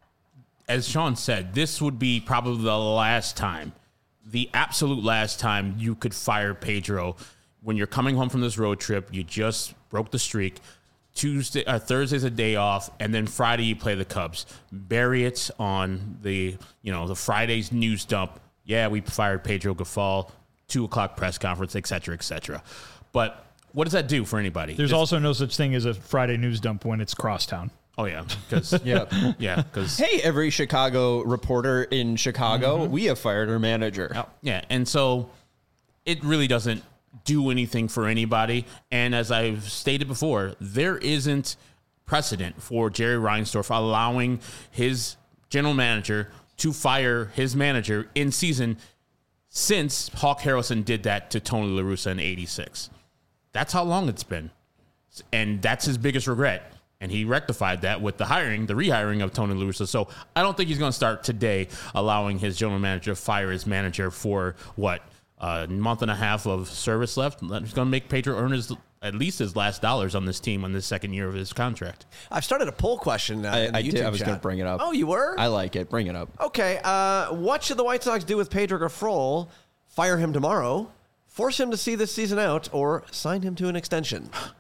as Sean said, this would be probably the last time. The absolute last time you could fire Pedro when you're coming home from this road trip. You just broke the streak. Tuesday, uh, Thursday's a day off, and then Friday you play the Cubs. Bury it on the you know the Friday's news dump. Yeah, we fired Pedro Grifol. Two o'clock press conference, et cetera, et cetera. But what does that do for anybody? There's It's, also no such thing as a Friday news dump when it's crosstown. Oh yeah, because Yeah. yeah, because Hey, every Chicago reporter in Chicago, Mm-hmm. we have fired our manager. Yeah, and so it really doesn't do anything for anybody. And as I've stated before, there isn't precedent for Jerry Reinsdorf allowing his general manager to fire his manager in season since Hawk Harrelson did that to Tony La Russa in eighty-six. That's how long it's been. And that's his biggest regret. And he rectified that with the hiring, the rehiring of Tony La Russa. So I don't think he's going to start today allowing his general manager to fire his manager for, what, a month and a half of service left. He's going to make Pedro earn his, at least his last dollars on this team on this second year of his contract. I've started a poll question. Uh, I, in the I YouTube did. I was chat. going to bring it up. Oh, you were? I like it. Bring it up. Okay. Uh, what should the White Sox do with Pedro Grifol? Fire him tomorrow, force him to see this season out, or sign him to an extension?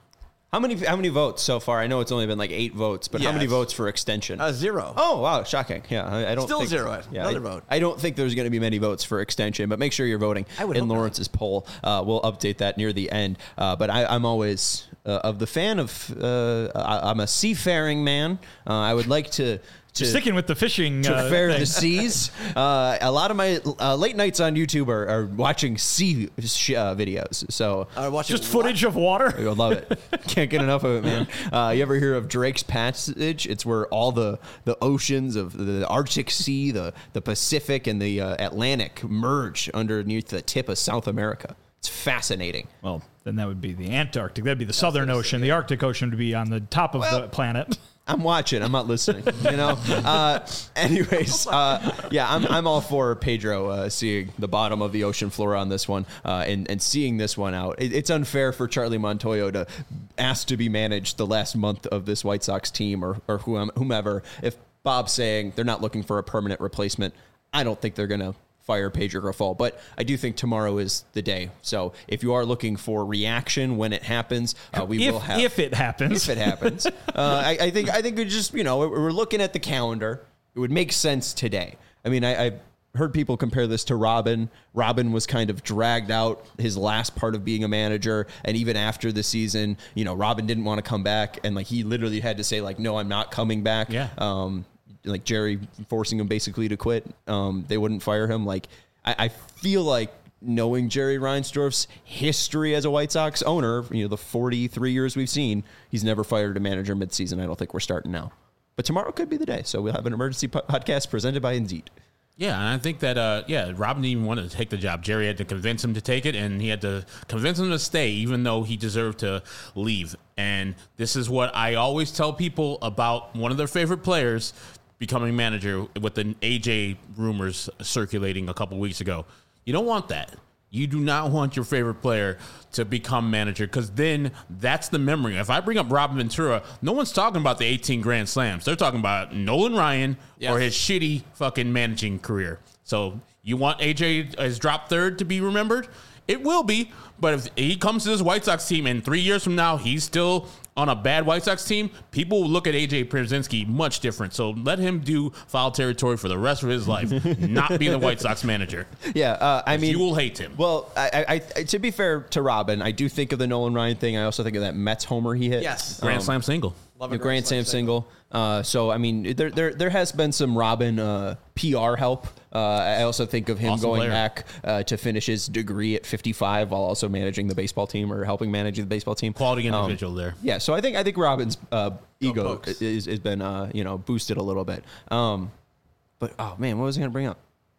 How many how many votes so far? I know it's only been like eight votes, but how Yeah, many it's- votes for extension? Uh, zero. Oh wow, shocking! Yeah, I, I don't Still think, zero. Yeah, Another I, vote. I don't think there's going to be many votes for extension, but make sure you're voting I would in hope not. Lawrence's poll. Uh, we'll update that near the end. Uh, but I, I'm always uh, of the fan of. Uh, I, I'm a seafaring man. Uh, I would like to. To, Sticking with the fishing. to uh, fare thing. the seas. Uh, a lot of my uh, late nights on YouTube are, are watching sea sh- uh, videos. So I watch Just footage of water. I love it. Can't get enough of it, man. Uh, you ever hear of Drake's Passage? It's where all the, the oceans of the Arctic Sea, the, the Pacific, and the uh, Atlantic merge underneath the tip of South America. It's fascinating. Well, then that would be the Antarctic. That'd be the Southern Ocean. The Arctic Ocean would be on the top of Well- the planet. I'm watching. I'm not listening. You know. Uh, anyways, uh, yeah, I'm I'm all for Pedro uh, seeing the bottom of the ocean floor on this one uh, and and seeing this one out. It, it's unfair for Charlie Montoyo to ask to be managed the last month of this White Sox team or or whom- whomever. If Bob's saying they're not looking for a permanent replacement, I don't think they're gonna fire Pedro Grifol, but I do think tomorrow is the day. So if you are looking for reaction when it happens, uh, we if, will have if it happens. if it happens. uh, I, I think I think we just you know we're looking at the calendar. It would make sense today. I mean, I, I've heard people compare this to Robin. Robin was kind of dragged out his last part of being a manager, and even after the season, you know, Robin didn't want to come back, and like he literally had to say like, "No, I'm not coming back." Yeah. Um, like Jerry forcing him basically to quit. Um, they wouldn't fire him. Like I, I feel like knowing Jerry Reinsdorf's history as a White Sox owner, you know, the forty-three years we've seen, he's never fired a manager midseason. I don't think we're starting now. But tomorrow could be the day. So we'll have an emergency po- podcast presented by Indeed. Yeah, and I think that, uh, yeah, Robin didn't even want to take the job. Jerry had to convince him to take it, and he had to convince him to stay, even though he deserved to leave. And this is what I always tell people about one of their favorite players becoming manager with the A J rumors circulating a couple weeks ago. You don't want that. You do not want your favorite player to become manager, because then that's the memory. If I bring up Robin Ventura, no one's talking about the eighteen Grand Slams. They're talking about Nolan Ryan Yes. or his shitty fucking managing career. So you want A J as drop third to be remembered? It will be, but if he comes to this White Sox team and three years from now he's still on a bad White Sox team, people will look at A J Pierzynski much different. So let him do foul territory for the rest of his life, not be the White Sox manager. Yeah, uh, I mean, You will hate him. Well, I, I, I, to be fair to Robin, I do think of the Nolan Ryan thing. I also think of that Mets homer he hit. Yes. Grand Um, Slam single. Love the a Grand Slam single. Uh, so I mean, there there there has been some Robin uh, P R help. Uh, I also think of him Awesome going player. back uh, to finish his degree at fifty-five while also managing the baseball team or helping manage the baseball team. Quality Um, individual there. Yeah, so I think I think Robin's uh, ego Pokes. is has been uh, you know boosted a little bit. Um, but oh man, what was I going to bring up?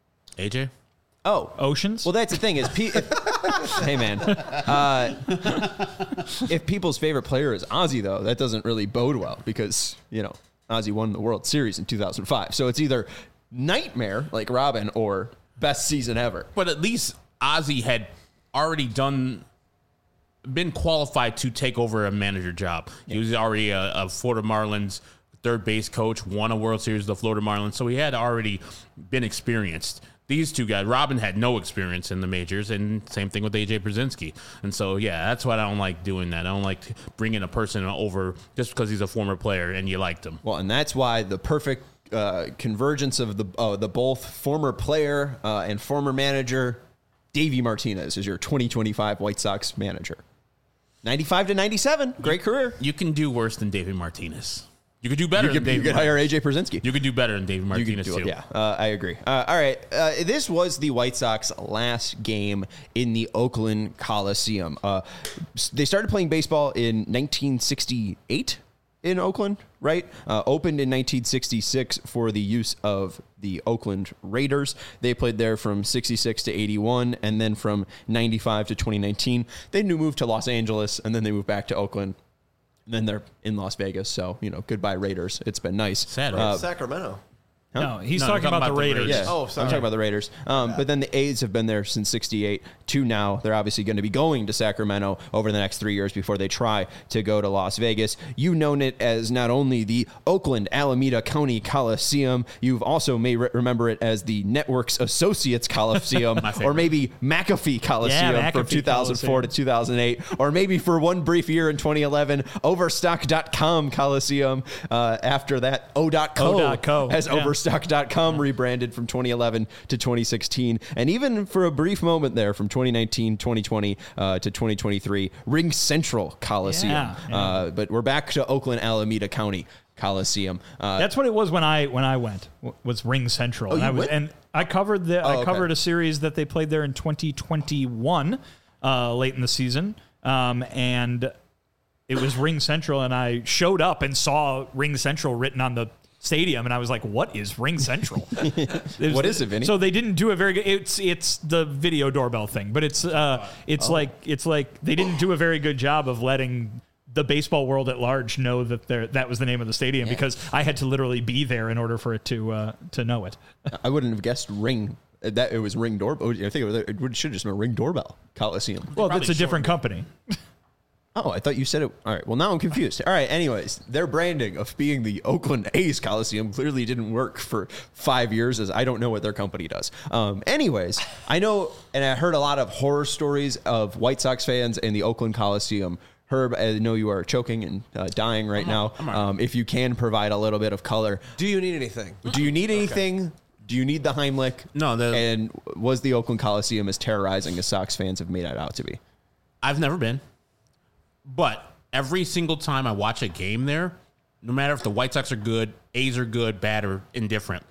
A J? Oh, Oceans? well, that's the thing is, pe- if, hey man, uh, if people's favorite player is Ozzy, though, that doesn't really bode well because you know Ozzy won the World Series in two thousand five. So it's either nightmare like Robin or best season ever. But at least Ozzy had already done, been qualified to take over a manager job. He was already a, a Florida Marlins third base coach, won a World Series with the Florida Marlins, so he had already been experienced. These two guys, Robin had no experience in the majors, and same thing with A J Pierzynski. And so, yeah, that's why I don't like doing that. I don't like bringing a person over just because he's a former player and you liked him. Well, and that's why the perfect uh, convergence of the uh, the both former player uh, and former manager, Davey Martinez, is your twenty twenty-five White Sox manager. ninety-five to ninety-seven, great career. You can do worse than David Martinez. You could do better You than could, you David could hire A J Pierzynski. You could do better than David You could Martinez, do it, too. yeah, uh, I agree. Uh, all right, uh, this was the White Sox last game in the Oakland Coliseum. Uh, they started playing baseball in nineteen sixty-eight in Oakland, right? Uh, opened in nineteen sixty-six for the use of the Oakland Raiders. They played there from sixty-six to eighty-one, and then from ninety-five to twenty nineteen. They moved to Los Angeles, and then they moved back to Oakland. And then they're in Las Vegas, so, you know, goodbye Raiders. It's been nice. Sad, Uh, right? Sacramento. No, he's No, talking I'm about, the Raiders. Yeah, Oh, I'm sorry. talking about the Raiders. Um, but then the A's have been there since sixty-eight to now. They're obviously going to be going to Sacramento over the next three years before they try to go to Las Vegas. You've known it as not only the Oakland Alameda County Coliseum, you've also may re- remember it as the Networks Associates Coliseum, or maybe McAfee Coliseum Yeah, from McAfee two thousand four Coliseum. to two thousand eight, or maybe for one brief year in twenty eleven, Overstock dot com Coliseum. Uh, after that, O dot co, O dot co, as yeah. Overstock. Stock dot com rebranded from twenty eleven to twenty sixteen, and even for a brief moment there from twenty nineteen, twenty twenty uh, to twenty twenty-three, Ring Central Coliseum. Yeah, yeah. Uh, but we're back to Oakland Alameda County Coliseum. Uh, That's what it was when I when I went. w- Was Ring Central? Oh, and you I was, went? and I covered the I okay. covered a series that they played there in twenty twenty-one, uh, late in the season, um, and it was Ring Central, and I showed up and saw Ring Central written on the stadium, and I was like, "What is Ring Central? It What is it, Vinny? So they didn't do a very good. It's it's the video doorbell thing, but it's uh it's Oh. like it's like they didn't do a very good job of letting the baseball world at large know that there that was the name of the stadium, because I had to literally be there in order for it to uh, to know it. I wouldn't have guessed Ring. That it was Ring Doorbell. I think it, was, it should have just been Ring Doorbell Coliseum. Well, probably it's a different company. Oh, I thought you said it. All right. Well, now I'm confused. All right. Anyways, their branding of being the Oakland A's Coliseum clearly didn't work for five years, as I don't know what their company does. Um, anyways, I know, and I heard a lot of horror stories of White Sox fans in the Oakland Coliseum. Herb, I know you are choking and uh, dying right now. Um, if you can provide a little bit of color, Do you need anything? do you need anything? Do you need the Heimlich? No, the- And was the Oakland Coliseum as terrorizing as Sox fans have made it out to be? I've never been, but every single time I watch a game there, no matter if the White Sox are good, A's are good, bad, or indifferent,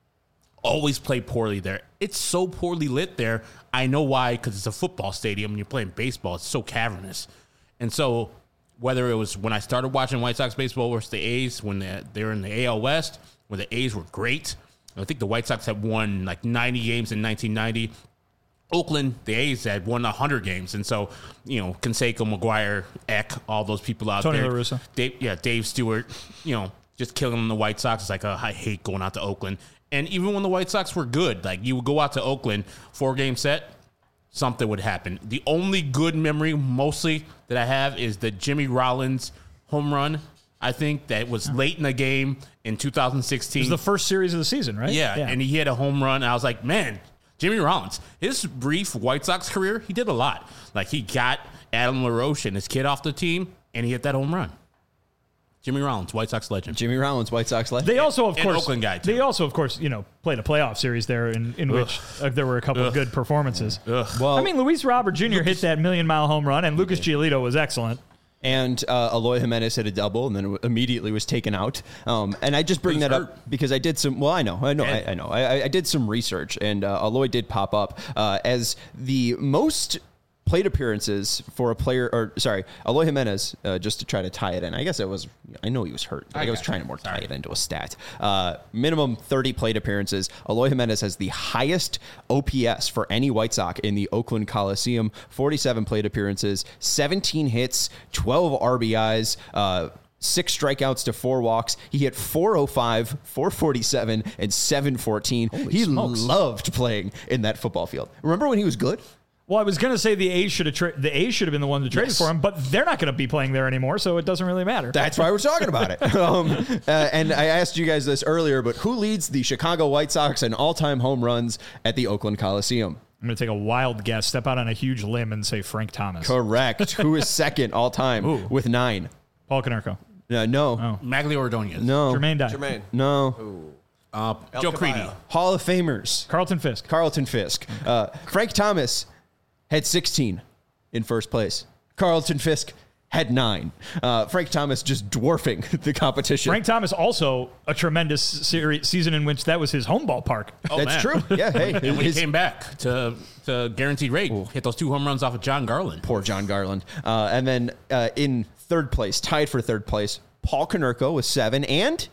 always play poorly there. It's so poorly lit there. I know why, because it's a football stadium and you're playing baseball. It's so cavernous. And so whether it was when I started watching White Sox baseball versus the A's, when they're, they're in the A L West, where the A's were great. I think the White Sox had won like ninety games in nineteen ninety. Oakland, the A's had won one hundred games. And so, you know, Canseco, McGuire, Eck, all those people out Tony there. La Russa. Dave, yeah, Dave Stewart, you know, just killing the White Sox. It's like, oh, I hate going out to Oakland. And even when the White Sox were good, like you would go out to Oakland, four-game set, something would happen. The only good memory mostly that I have is the Jimmy Rollins home run. I think that was late in the game in two thousand sixteen. It was the first series of the season, right? Yeah, and he had a home run. I was like, man, Jimmy Rollins, his brief White Sox career, he did a lot. Like, he got Adam LaRoche and his kid off the team, and he hit that home run. Jimmy Rollins, White Sox legend. Jimmy Rollins, White Sox legend. They also, of And course, Oakland guy, too. they also, of course, you know, played a playoff series there in, in which uh, there were a couple of good performances. Well, I mean, Luis Robert Junior hit that million mile home run, and Lucas Giolito was excellent. and uh, Eloy Jimenez hit a double, and then immediately was taken out. Um, and I just bring He's that hurt. up because I did some. Well, I know, I know, I, I know. I, I did some research, and uh, Eloy did pop up uh, as the most plate appearances for a player, or sorry, Eloy Jimenez, uh, just to try to tie it in. I guess it was, I know he was hurt. Like I, was got trying you. to more tie Sorry. it into a stat. Uh, minimum thirty plate appearances. Eloy Jimenez has the highest O P S for any White Sox in the Oakland Coliseum. forty-seven plate appearances, seventeen hits, twelve R B Is, uh, six strikeouts to four walks. He hit four oh five, four forty-seven, and seven fourteen. He smokes. loved playing in that football field. Remember when he was good? Well, I was going to say the A's should have tra- the A's should have been the one to trade Yes. for him, but they're not going to be playing there anymore, so it doesn't really matter. That's why we're talking about it. Um, uh, and I asked you guys this earlier, but who leads the Chicago White Sox in all-time home runs at the Oakland Coliseum? I'm going to take a wild guess, step out on a huge limb, and say Frank Thomas. Correct. Who is second all-time Ooh. with nine? Paul Konerko. Uh, no. Magli Ordonez. No. Jermaine Dye. Jermaine. No. Uh, El Joe Caballo. Creedy. Hall of Famers. Carlton Fisk. Carlton Fisk. Uh, Frank Thomas had sixteen in first place. Carlton Fisk had nine. Uh, Frank Thomas just dwarfing the competition. Frank Thomas also a tremendous series, season in which that was his home ballpark. Oh, That's man. true. Yeah, hey. And when his- he came back to, to guaranteed rate, hit those two home runs off of John Garland. Poor John Garland. Uh, and then uh, in third place, tied for third place, Paul Konerko with seven. And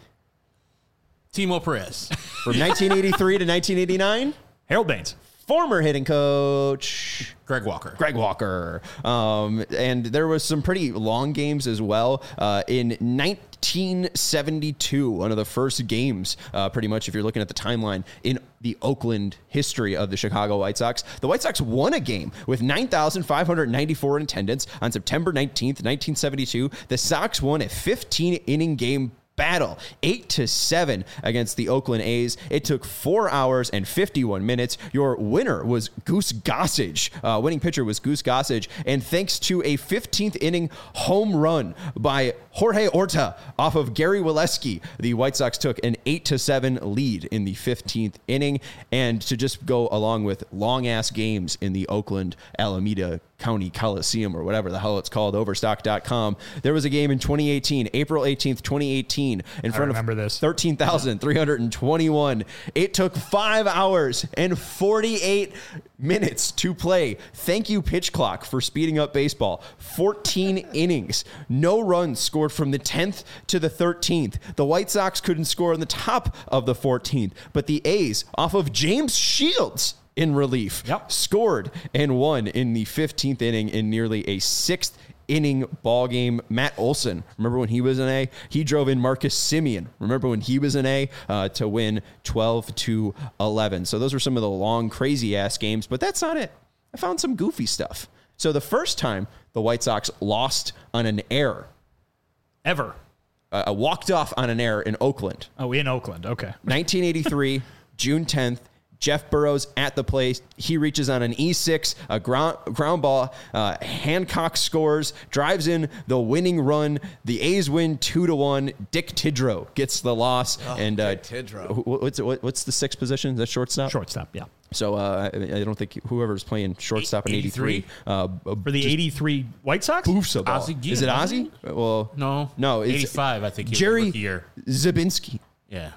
Timo Perez. from nineteen eighty-three to nineteen eighty-nine, Harold Baines. former hitting coach Greg Walker. Greg Walker. Um, and there was some pretty long games as well. Uh, in nine, nineteen seventy-two, one of the first games, uh, pretty much, if you're looking at the timeline, in the Oakland history of the Chicago White Sox. The White Sox won a game with nine thousand five hundred ninety-four in attendance on September nineteenth, nineteen seventy-two. The Sox won a fifteen-inning game battle, eight to seven against the Oakland A's. It took four hours and fifty-one minutes. Your winner was Goose Gossage. Uh, winning pitcher was Goose Gossage. And thanks to a fifteenth inning home run by Jorge Orta off of Gary Waleski, the White Sox took an eight to seven lead in the fifteenth inning. And to just go along with long ass games in the Oakland Alameda County Coliseum, or whatever the hell it's called, overstock dot com. There was a game in twenty eighteen, April eighteenth, twenty eighteen, in front of thirteen thousand three hundred twenty-one. It took five hours and forty-eight minutes to play. Thank you, Pitch Clock, for speeding up baseball. fourteen innings. No runs scored from the tenth to the thirteenth. The White Sox couldn't score on the top of the fourteenth, but the A's, off of James Shields in relief, Yep. scored and won in the fifteenth inning in nearly a sixth inning ball game. Matt Olson, remember when he was an A? He drove in Marcus Simeon. Remember when he was an A uh, to win twelve to eleven. So those were some of the long, crazy ass games, but that's not it. I found some goofy stuff. So the first time the White Sox lost on an error, Ever. uh, walked off on an error in Oakland, Oh, in Oakland. Okay. nineteen eighty-three, June tenth. Jeff Burrows at the plate. He reaches on an E six, a ground, ground ball. Uh, Hancock scores, drives in the winning run. The A's win two to one. Dick Tidrow gets the loss. Oh, and uh, Dick Tidrow. wh- What's what, what's the sixth position? Is that shortstop? Shortstop, yeah. So uh, I, I don't think whoever's playing shortstop in eighty-three. Uh, For the eighty-three White Sox? Boofs a ball. Ozzie Guillen, Is it wasn't Ozzy? Well, No. no, it's eighty-five, I think. He was Jerry rookie year. Zabinski. Yeah.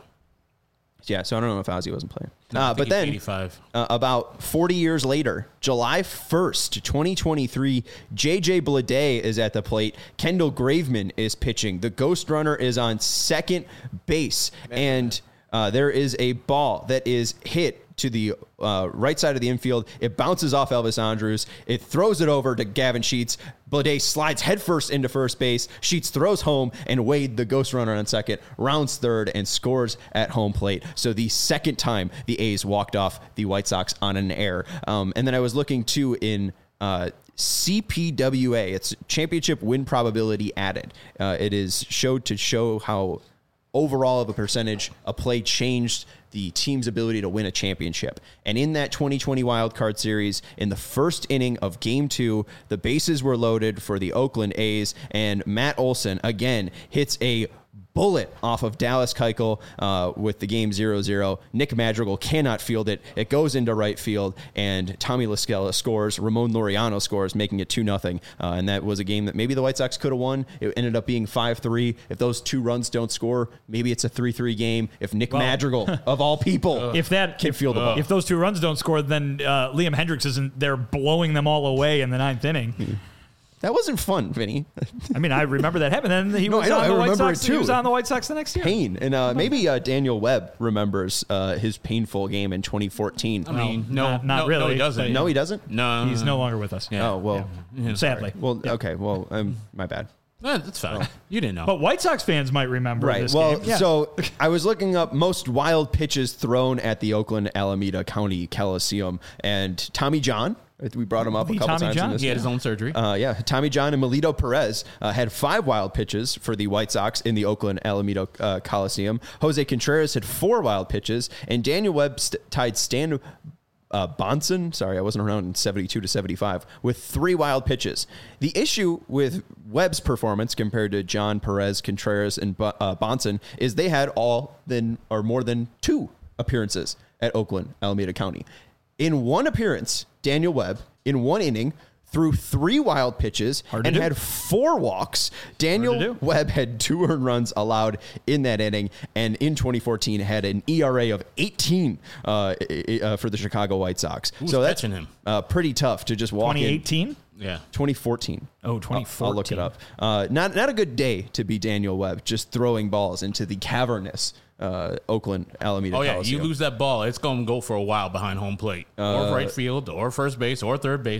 Yeah, so I don't know if Ozzy wasn't playing. No, I uh, think but he's then, eighty-five. uh, about forty years later, July first, twenty twenty-three, J J Bleday is at the plate. Kendall Graveman is pitching. The Ghost Runner is on second base. And uh, there is a ball that is hit to the uh, right side of the infield. It bounces off Elvis Andrus. It throws it over to Gavin Sheets. Bleday slides headfirst into first base. Sheets throws home, and Wade, the Ghost Runner on second, rounds third and scores at home plate. So the second time the A's walked off the White Sox on an error. Um, and then I was looking too in uh, C P W A. It's championship win probability added. Uh, it is showed to show how overall of a percentage a play changed the team's ability to win a championship. And in that twenty twenty Wild Card Series, in the first inning of Game two, the bases were loaded for the Oakland A's, and Matt Olson, again, hits a bullet off of Dallas Keuchel uh, with the game zero zero. Nick Madrigal cannot field it. It goes into right field, and Tommy LaScala scores. Ramon Laureano scores, making it two nothing. Uh, and that was a game that maybe the White Sox could have won. It ended up being five three. If those two runs don't score, maybe it's a three three game. If Nick Well, Madrigal, of all people, If that can if, field the ball. if those two runs don't score, then uh, Liam Hendricks isn't there blowing them all away in the ninth inning. That wasn't fun, Vinny. I mean, I remember that happened. Then he No, was I know, on I the White remember Sox. it too. He was on the White Sox the next year. Pain. And uh, maybe uh, Daniel Webb remembers uh, his painful game in twenty fourteen. I mean, No, no, not- not no, really, No, he doesn't. but- No, he doesn't? No, He's no longer with us. Yeah. Oh, well, Yeah, Sadly. well, okay. Well, um, my bad. Eh, that's fine. You didn't know. But White Sox fans might remember Right. this Well, game. Yeah. so I was looking up most wild pitches thrown at the Oakland Alameda County Coliseum, and Tommy John, we brought him up The a couple Tommy times John? in this. he had his own surgery. Uh, yeah, Tommy John and Melito Perez uh, had five wild pitches for the White Sox in the Oakland Alameda uh, Coliseum. Jose Contreras had four wild pitches, and Daniel Webb st- tied Stan uh, Bonson, sorry, I wasn't around in seventy-two to seventy-five, with three wild pitches. The issue with Webb's performance compared to John, Perez, Contreras, and Bo- uh, Bonson is they had all than or more than two appearances at Oakland Alameda County. In one appearance, Daniel Webb, in one inning, threw three wild pitches Hard to and do. had four walks. Hard Daniel to do. Webb had two earned runs allowed in that inning, and in twenty fourteen had an E R A of eighteen uh, uh, for the Chicago White Sox. Who's so that's catching him? Uh, pretty tough to just walk twenty in. eighteen? Yeah. twenty fourteen. Oh, twenty fourteen. I'll, I'll look it up. Uh, not not a good day to be Daniel Webb, just throwing balls into the cavernous uh, Oakland Alameda Oh, yeah. Coliseum. You lose that ball, it's going to go for a while behind home plate Uh, or right field or first base or third base.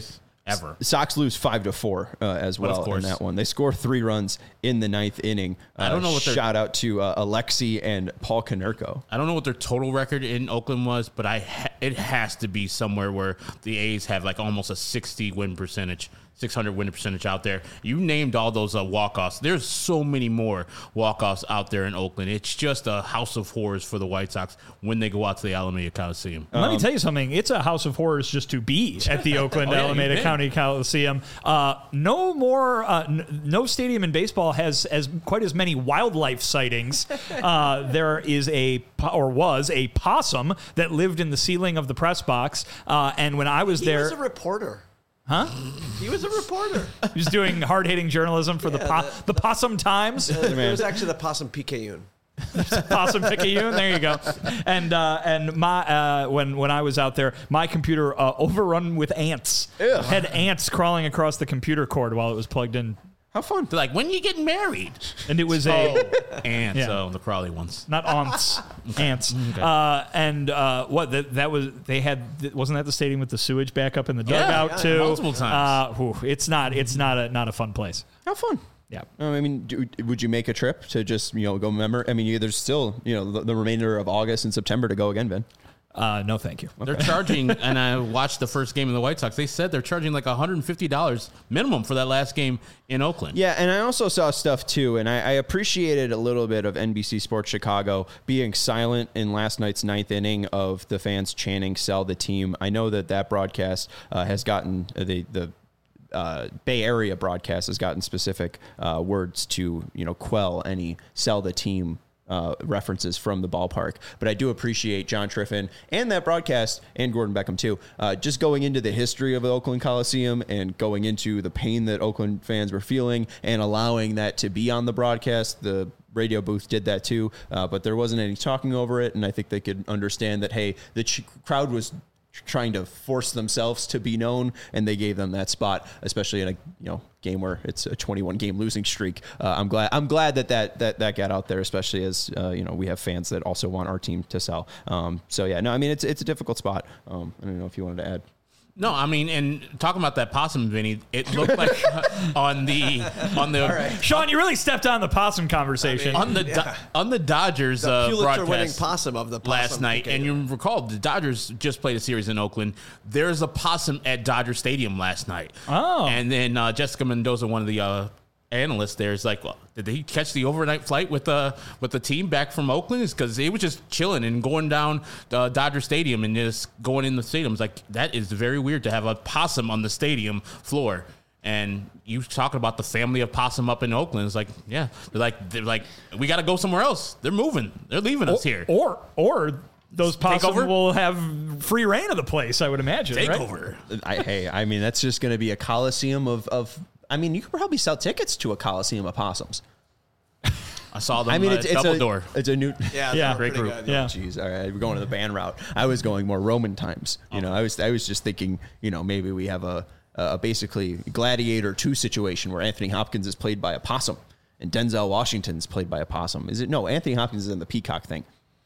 ever. Sox lose five to four uh, as But of well in course. that one. They score three runs in the ninth inning. Uh, I don't know what their- shout out to uh, Alexi and Paul Konerko. I don't know what their total record in Oakland was, but I ha- it has to be somewhere where the A's have like almost a sixty win percentage, six hundred win percentage out there. You named all those uh, walk-offs. There's so many more walk-offs out there in Oakland. It's just a house of horrors for the White Sox when they go out to the Alameda Coliseum. Let me tell you something. It's a house of horrors just to be at the Oakland Oh, yeah, Alameda you've been. County Coliseum. Uh, no more, uh, n- no stadium in baseball has as quite as many wildlife sightings. Uh, there is a, po- or was a possum that lived in the ceiling of the press box. Uh, and when I was He there, was a reporter. huh? He was a reporter. He was doing hard hitting journalism for the, po- the Possum Times. It was actually the Possum Picayune. Possum Picayune. There you go. And uh, and my uh, when when I was out there, my computer uh, overrun with ants. Had ants crawling across the computer cord while it was plugged in, How fun. They're like, when are you getting married? and it was a And Yeah. so the Crawley ones. not ants, ants. Uh, and uh, what that, that was? They had wasn't that the stadium with the sewage back up in the Yeah, dugout yeah, too? multiple times. Uh, whew, it's not. It's not a not a fun place. How fun. Yeah. Um, I mean, do, would you make a trip to just, you know, go member? I mean, you, there's still, you know, the, the remainder of August and September to go again, Ben. Uh, no, thank you. They're charging, and I watched the first game of the White Sox. They said they're charging like one hundred fifty dollars minimum for that last game in Oakland. Yeah, and I also saw stuff too, and I, I appreciated a little bit of N B C Sports Chicago being silent in last night's ninth inning of the fans chanting "Sell the team." I know that that broadcast uh, has gotten the the. Uh, Bay Area broadcast has gotten specific uh, words to, you know, quell any "sell the team" uh, references from the ballpark. But I do appreciate John Triffin and that broadcast, and Gordon Beckham too, uh, just going into the history of the Oakland Coliseum and going into the pain that Oakland fans were feeling and allowing that to be on the broadcast. The radio booth did that too, uh, but there wasn't any talking over it, and I think they could understand that, hey, the ch- crowd was trying to force themselves to be known, and they gave them that spot, especially in a, you know, game where it's a twenty-one game losing streak. Uh, I'm glad I'm glad that that that, that got out there, especially as uh, you know, we have fans that also want our team to sell. Um, so yeah, no, I mean, it's it's a difficult spot. Um, I don't know if you wanted to add. No, I mean, and talking about that possum, Vinny, it looked like on the on the Sean, you really stepped on the possum conversation. on the Do- on the Dodgers The uh, Pulitzer-winning broadcast possum of the Possum last night, and Picayune. you recall the Dodgers just played a series in Oakland. There's a possum at Dodger Stadium last night. Oh. and then uh, Jessica Mendoza, one of the uh, analysts there, is like, well, did he catch the overnight flight with the with the team back from Oakland? Is because he was just chilling and going down uh, Dodger Stadium and just going in the stadium. It's like, that is very weird to have a possum on the stadium floor. And you talking about the family of possum up in Oakland. It's like, yeah, they're like, they're like, we got to go somewhere else. They're moving. They're leaving us here. Or or those possum over? will have free reign of the place, I would imagine. Take right? over. I, hey, I mean, that's just going to be a coliseum of of. I mean, you could probably sell tickets to a coliseum of possums. I saw them. I mean, uh, it's it's double a door. it's a new. Yeah, Yeah. they were Great pretty group. good. Yeah. Jeez, all right, we're going to the band route. I was going more Roman times. You know, I was I was just thinking, you know, maybe we have a, a basically Gladiator two situation where Anthony Hopkins is played by a possum and Denzel Washington's played by a possum. Is it? No, Anthony Hopkins is in the Peacock thing.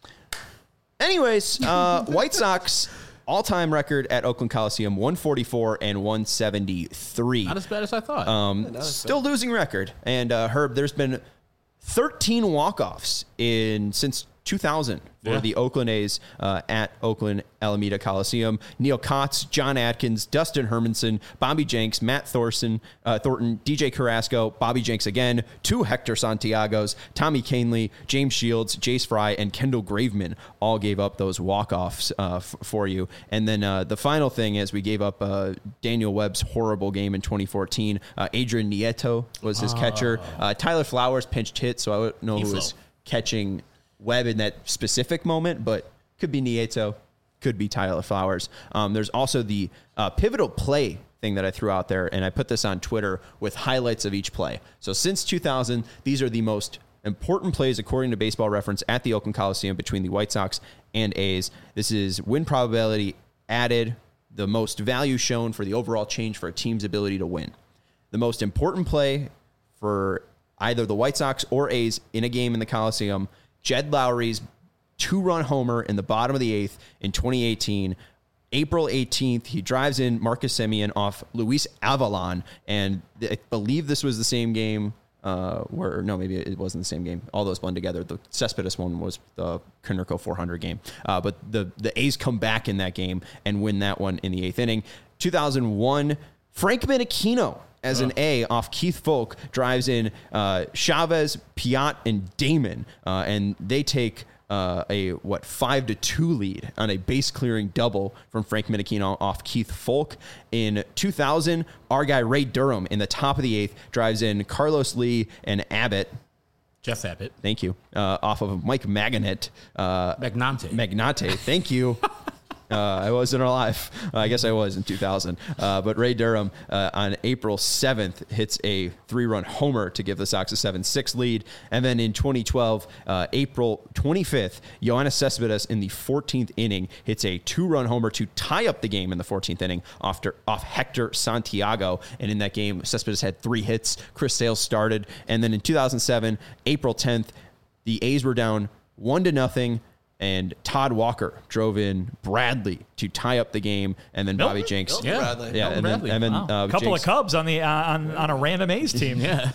Anyways, uh, White Sox all-time record at Oakland Coliseum, one forty-four and one seventy-three. Not as bad as I thought. Um, still losing record. And uh, Herb, there's been thirteen walk-offs in since two thousand for Yeah. the Oakland A's uh, at Oakland Alameda Coliseum. Neil Kotz, John Atkins, Dustin Hermanson, Bobby Jenks, Matt Thorson, uh, Thornton, D J Carrasco, Bobby Jenks again, two Hector Santiagos, Tommy Canley, James Shields, Jace Fry, and Kendall Graveman all gave up those walk-offs uh, f- for you. And then uh, the final thing is we gave up uh, Daniel Webb's horrible game in twenty fourteen. Uh, Adrian Nieto was his catcher. Uh, Tyler Flowers pinched hit, so I don't know who He was fell. catching Webb in that specific moment, but could be Nieto, could be Tyler Flowers. Um, there's also the uh, pivotal play thing that I threw out there, and I put this on Twitter with highlights of each play. So since two thousand, these are the most important plays according to Baseball Reference at the Oakland Coliseum between the White Sox and A's. This is win probability added, the most value shown for the overall change for a team's ability to win. The most important play for either the White Sox or A's in a game in the Coliseum, Jed Lowry's two-run homer in the bottom of the eighth in twenty eighteen. April eighteenth, he drives in Marcus Semien off Luis Avalon, and I believe this was the same game uh, where, no, maybe it wasn't the same game. All those blend together. The Cespedes one was the Konerko four hundred game. Uh, but the, the A's come back in that game and win that one in the eighth inning. two thousand one, Frank Menechino as an A off Keith Folk drives in uh, Chavez, Piat, and Damon, uh, and they take Uh, a what five to two lead on a base clearing double from Frank Menechino off Keith Folk. In two thousand, our guy Ray Durham in the top of the eighth drives in Carlos Lee and Abbott. Jeff Abbott. Thank you. Uh, off of Mike Magnate. Uh, Magnante. Magnate. Thank you. Uh, I wasn't alive. Uh, I guess I was in two thousand. Uh, but Ray Durham uh, on April seventh hits a three-run homer to give the Sox a seven six lead. And then in twenty twelve, uh, April twenty-fifth, Yoenis Cespedes in the fourteenth inning hits a two-run homer to tie up the game in the fourteenth inning after, off Hector Santiago. And in that game, Cespedes had three hits. Chris Sales started. And then in two thousand seven, April tenth, the A's were down one to nothing. And Todd Walker drove in Bradley to tie up the game, and then Milton? Bobby Jenks. Milton Yeah, Bradley. Yeah, Milton and then, Bradley. and then Wow. uh, A couple Jenks, of Cubs on the uh, on on a random A's team. Yeah.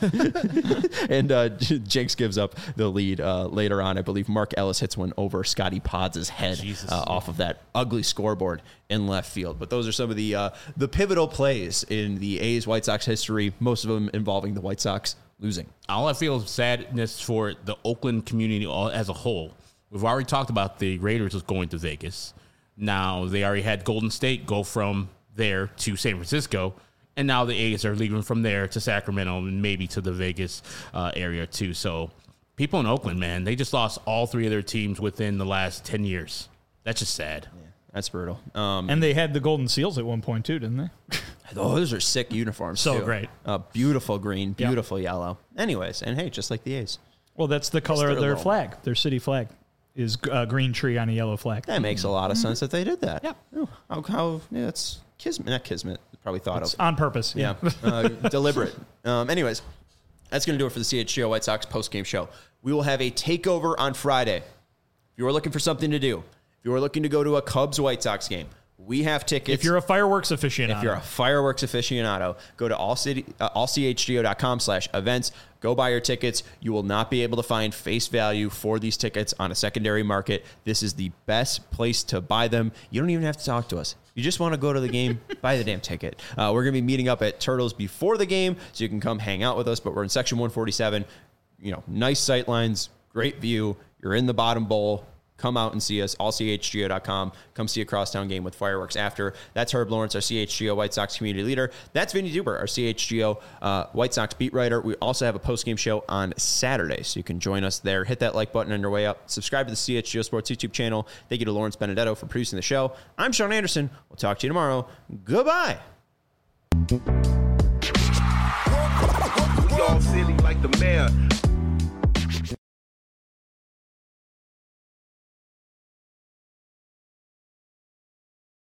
and uh, Jenks gives up the lead uh, later on. I believe Mark Ellis hits one over Scotty Pods' head Jesus. uh, off of that ugly scoreboard in left field. But those are some of the uh, the pivotal plays in the A's White Sox history. Most of them involving the White Sox losing. All I feel is sadness for the Oakland community all, as a whole. We've already talked about the Raiders was going to Vegas. Now they already had Golden State go from there to San Francisco, and now the A's are leaving from there to Sacramento and maybe to the Vegas uh, area too. So people in Oakland, man, they just lost all three of their teams within the last ten years. That's just sad. Yeah, that's brutal. Um, And they had the Golden Seals at one point too, didn't they? oh, those are sick uniforms. So too. great. Uh, beautiful green, Yeah. beautiful yellow. Anyways, and hey, just like the A's. Well, that's the color they're of their little. flag. Their city flag is a green tree on a yellow flag. That makes a lot of sense that they did that. Yeah. Oh, how, how yeah, it's kismet, not kismet. Probably thought It's of. on purpose. Yeah, uh, deliberate. Um, anyways, that's going to do it for the C H G O White Sox post-game show. We will have a takeover on Friday. If you are looking for something to do, if you are looking to go to a Cubs-White Sox game, we have tickets. If you're a fireworks aficionado, If you're a fireworks aficionado, go to allcity, uh, all c h g o dot com slash events. Go buy your tickets. You will not be able to find face value for these tickets on a secondary market. This is the best place to buy them. You don't even have to talk to us. You just want to go to the game, buy the damn ticket. Uh, we're going to be meeting up at Turtles before the game, so you can come hang out with us. But we're in section one forty-seven. You know, nice sight lines, great view. You're in the bottom bowl. Come out and see us, all c h g o dot com. Come see a crosstown game with fireworks after. That's Herb Lawrence, our C H G O White Sox community leader. That's Vinny Duber, our C H G O uh, White Sox beat writer. We also have a post-game show on Saturday, so you can join us there. Hit that like button on your way up. Subscribe to the C H G O Sports YouTube channel. Thank you to Lawrence Benedetto for producing the show. I'm Sean Anderson. We'll talk to you tomorrow. Goodbye. We all silly like the mayor.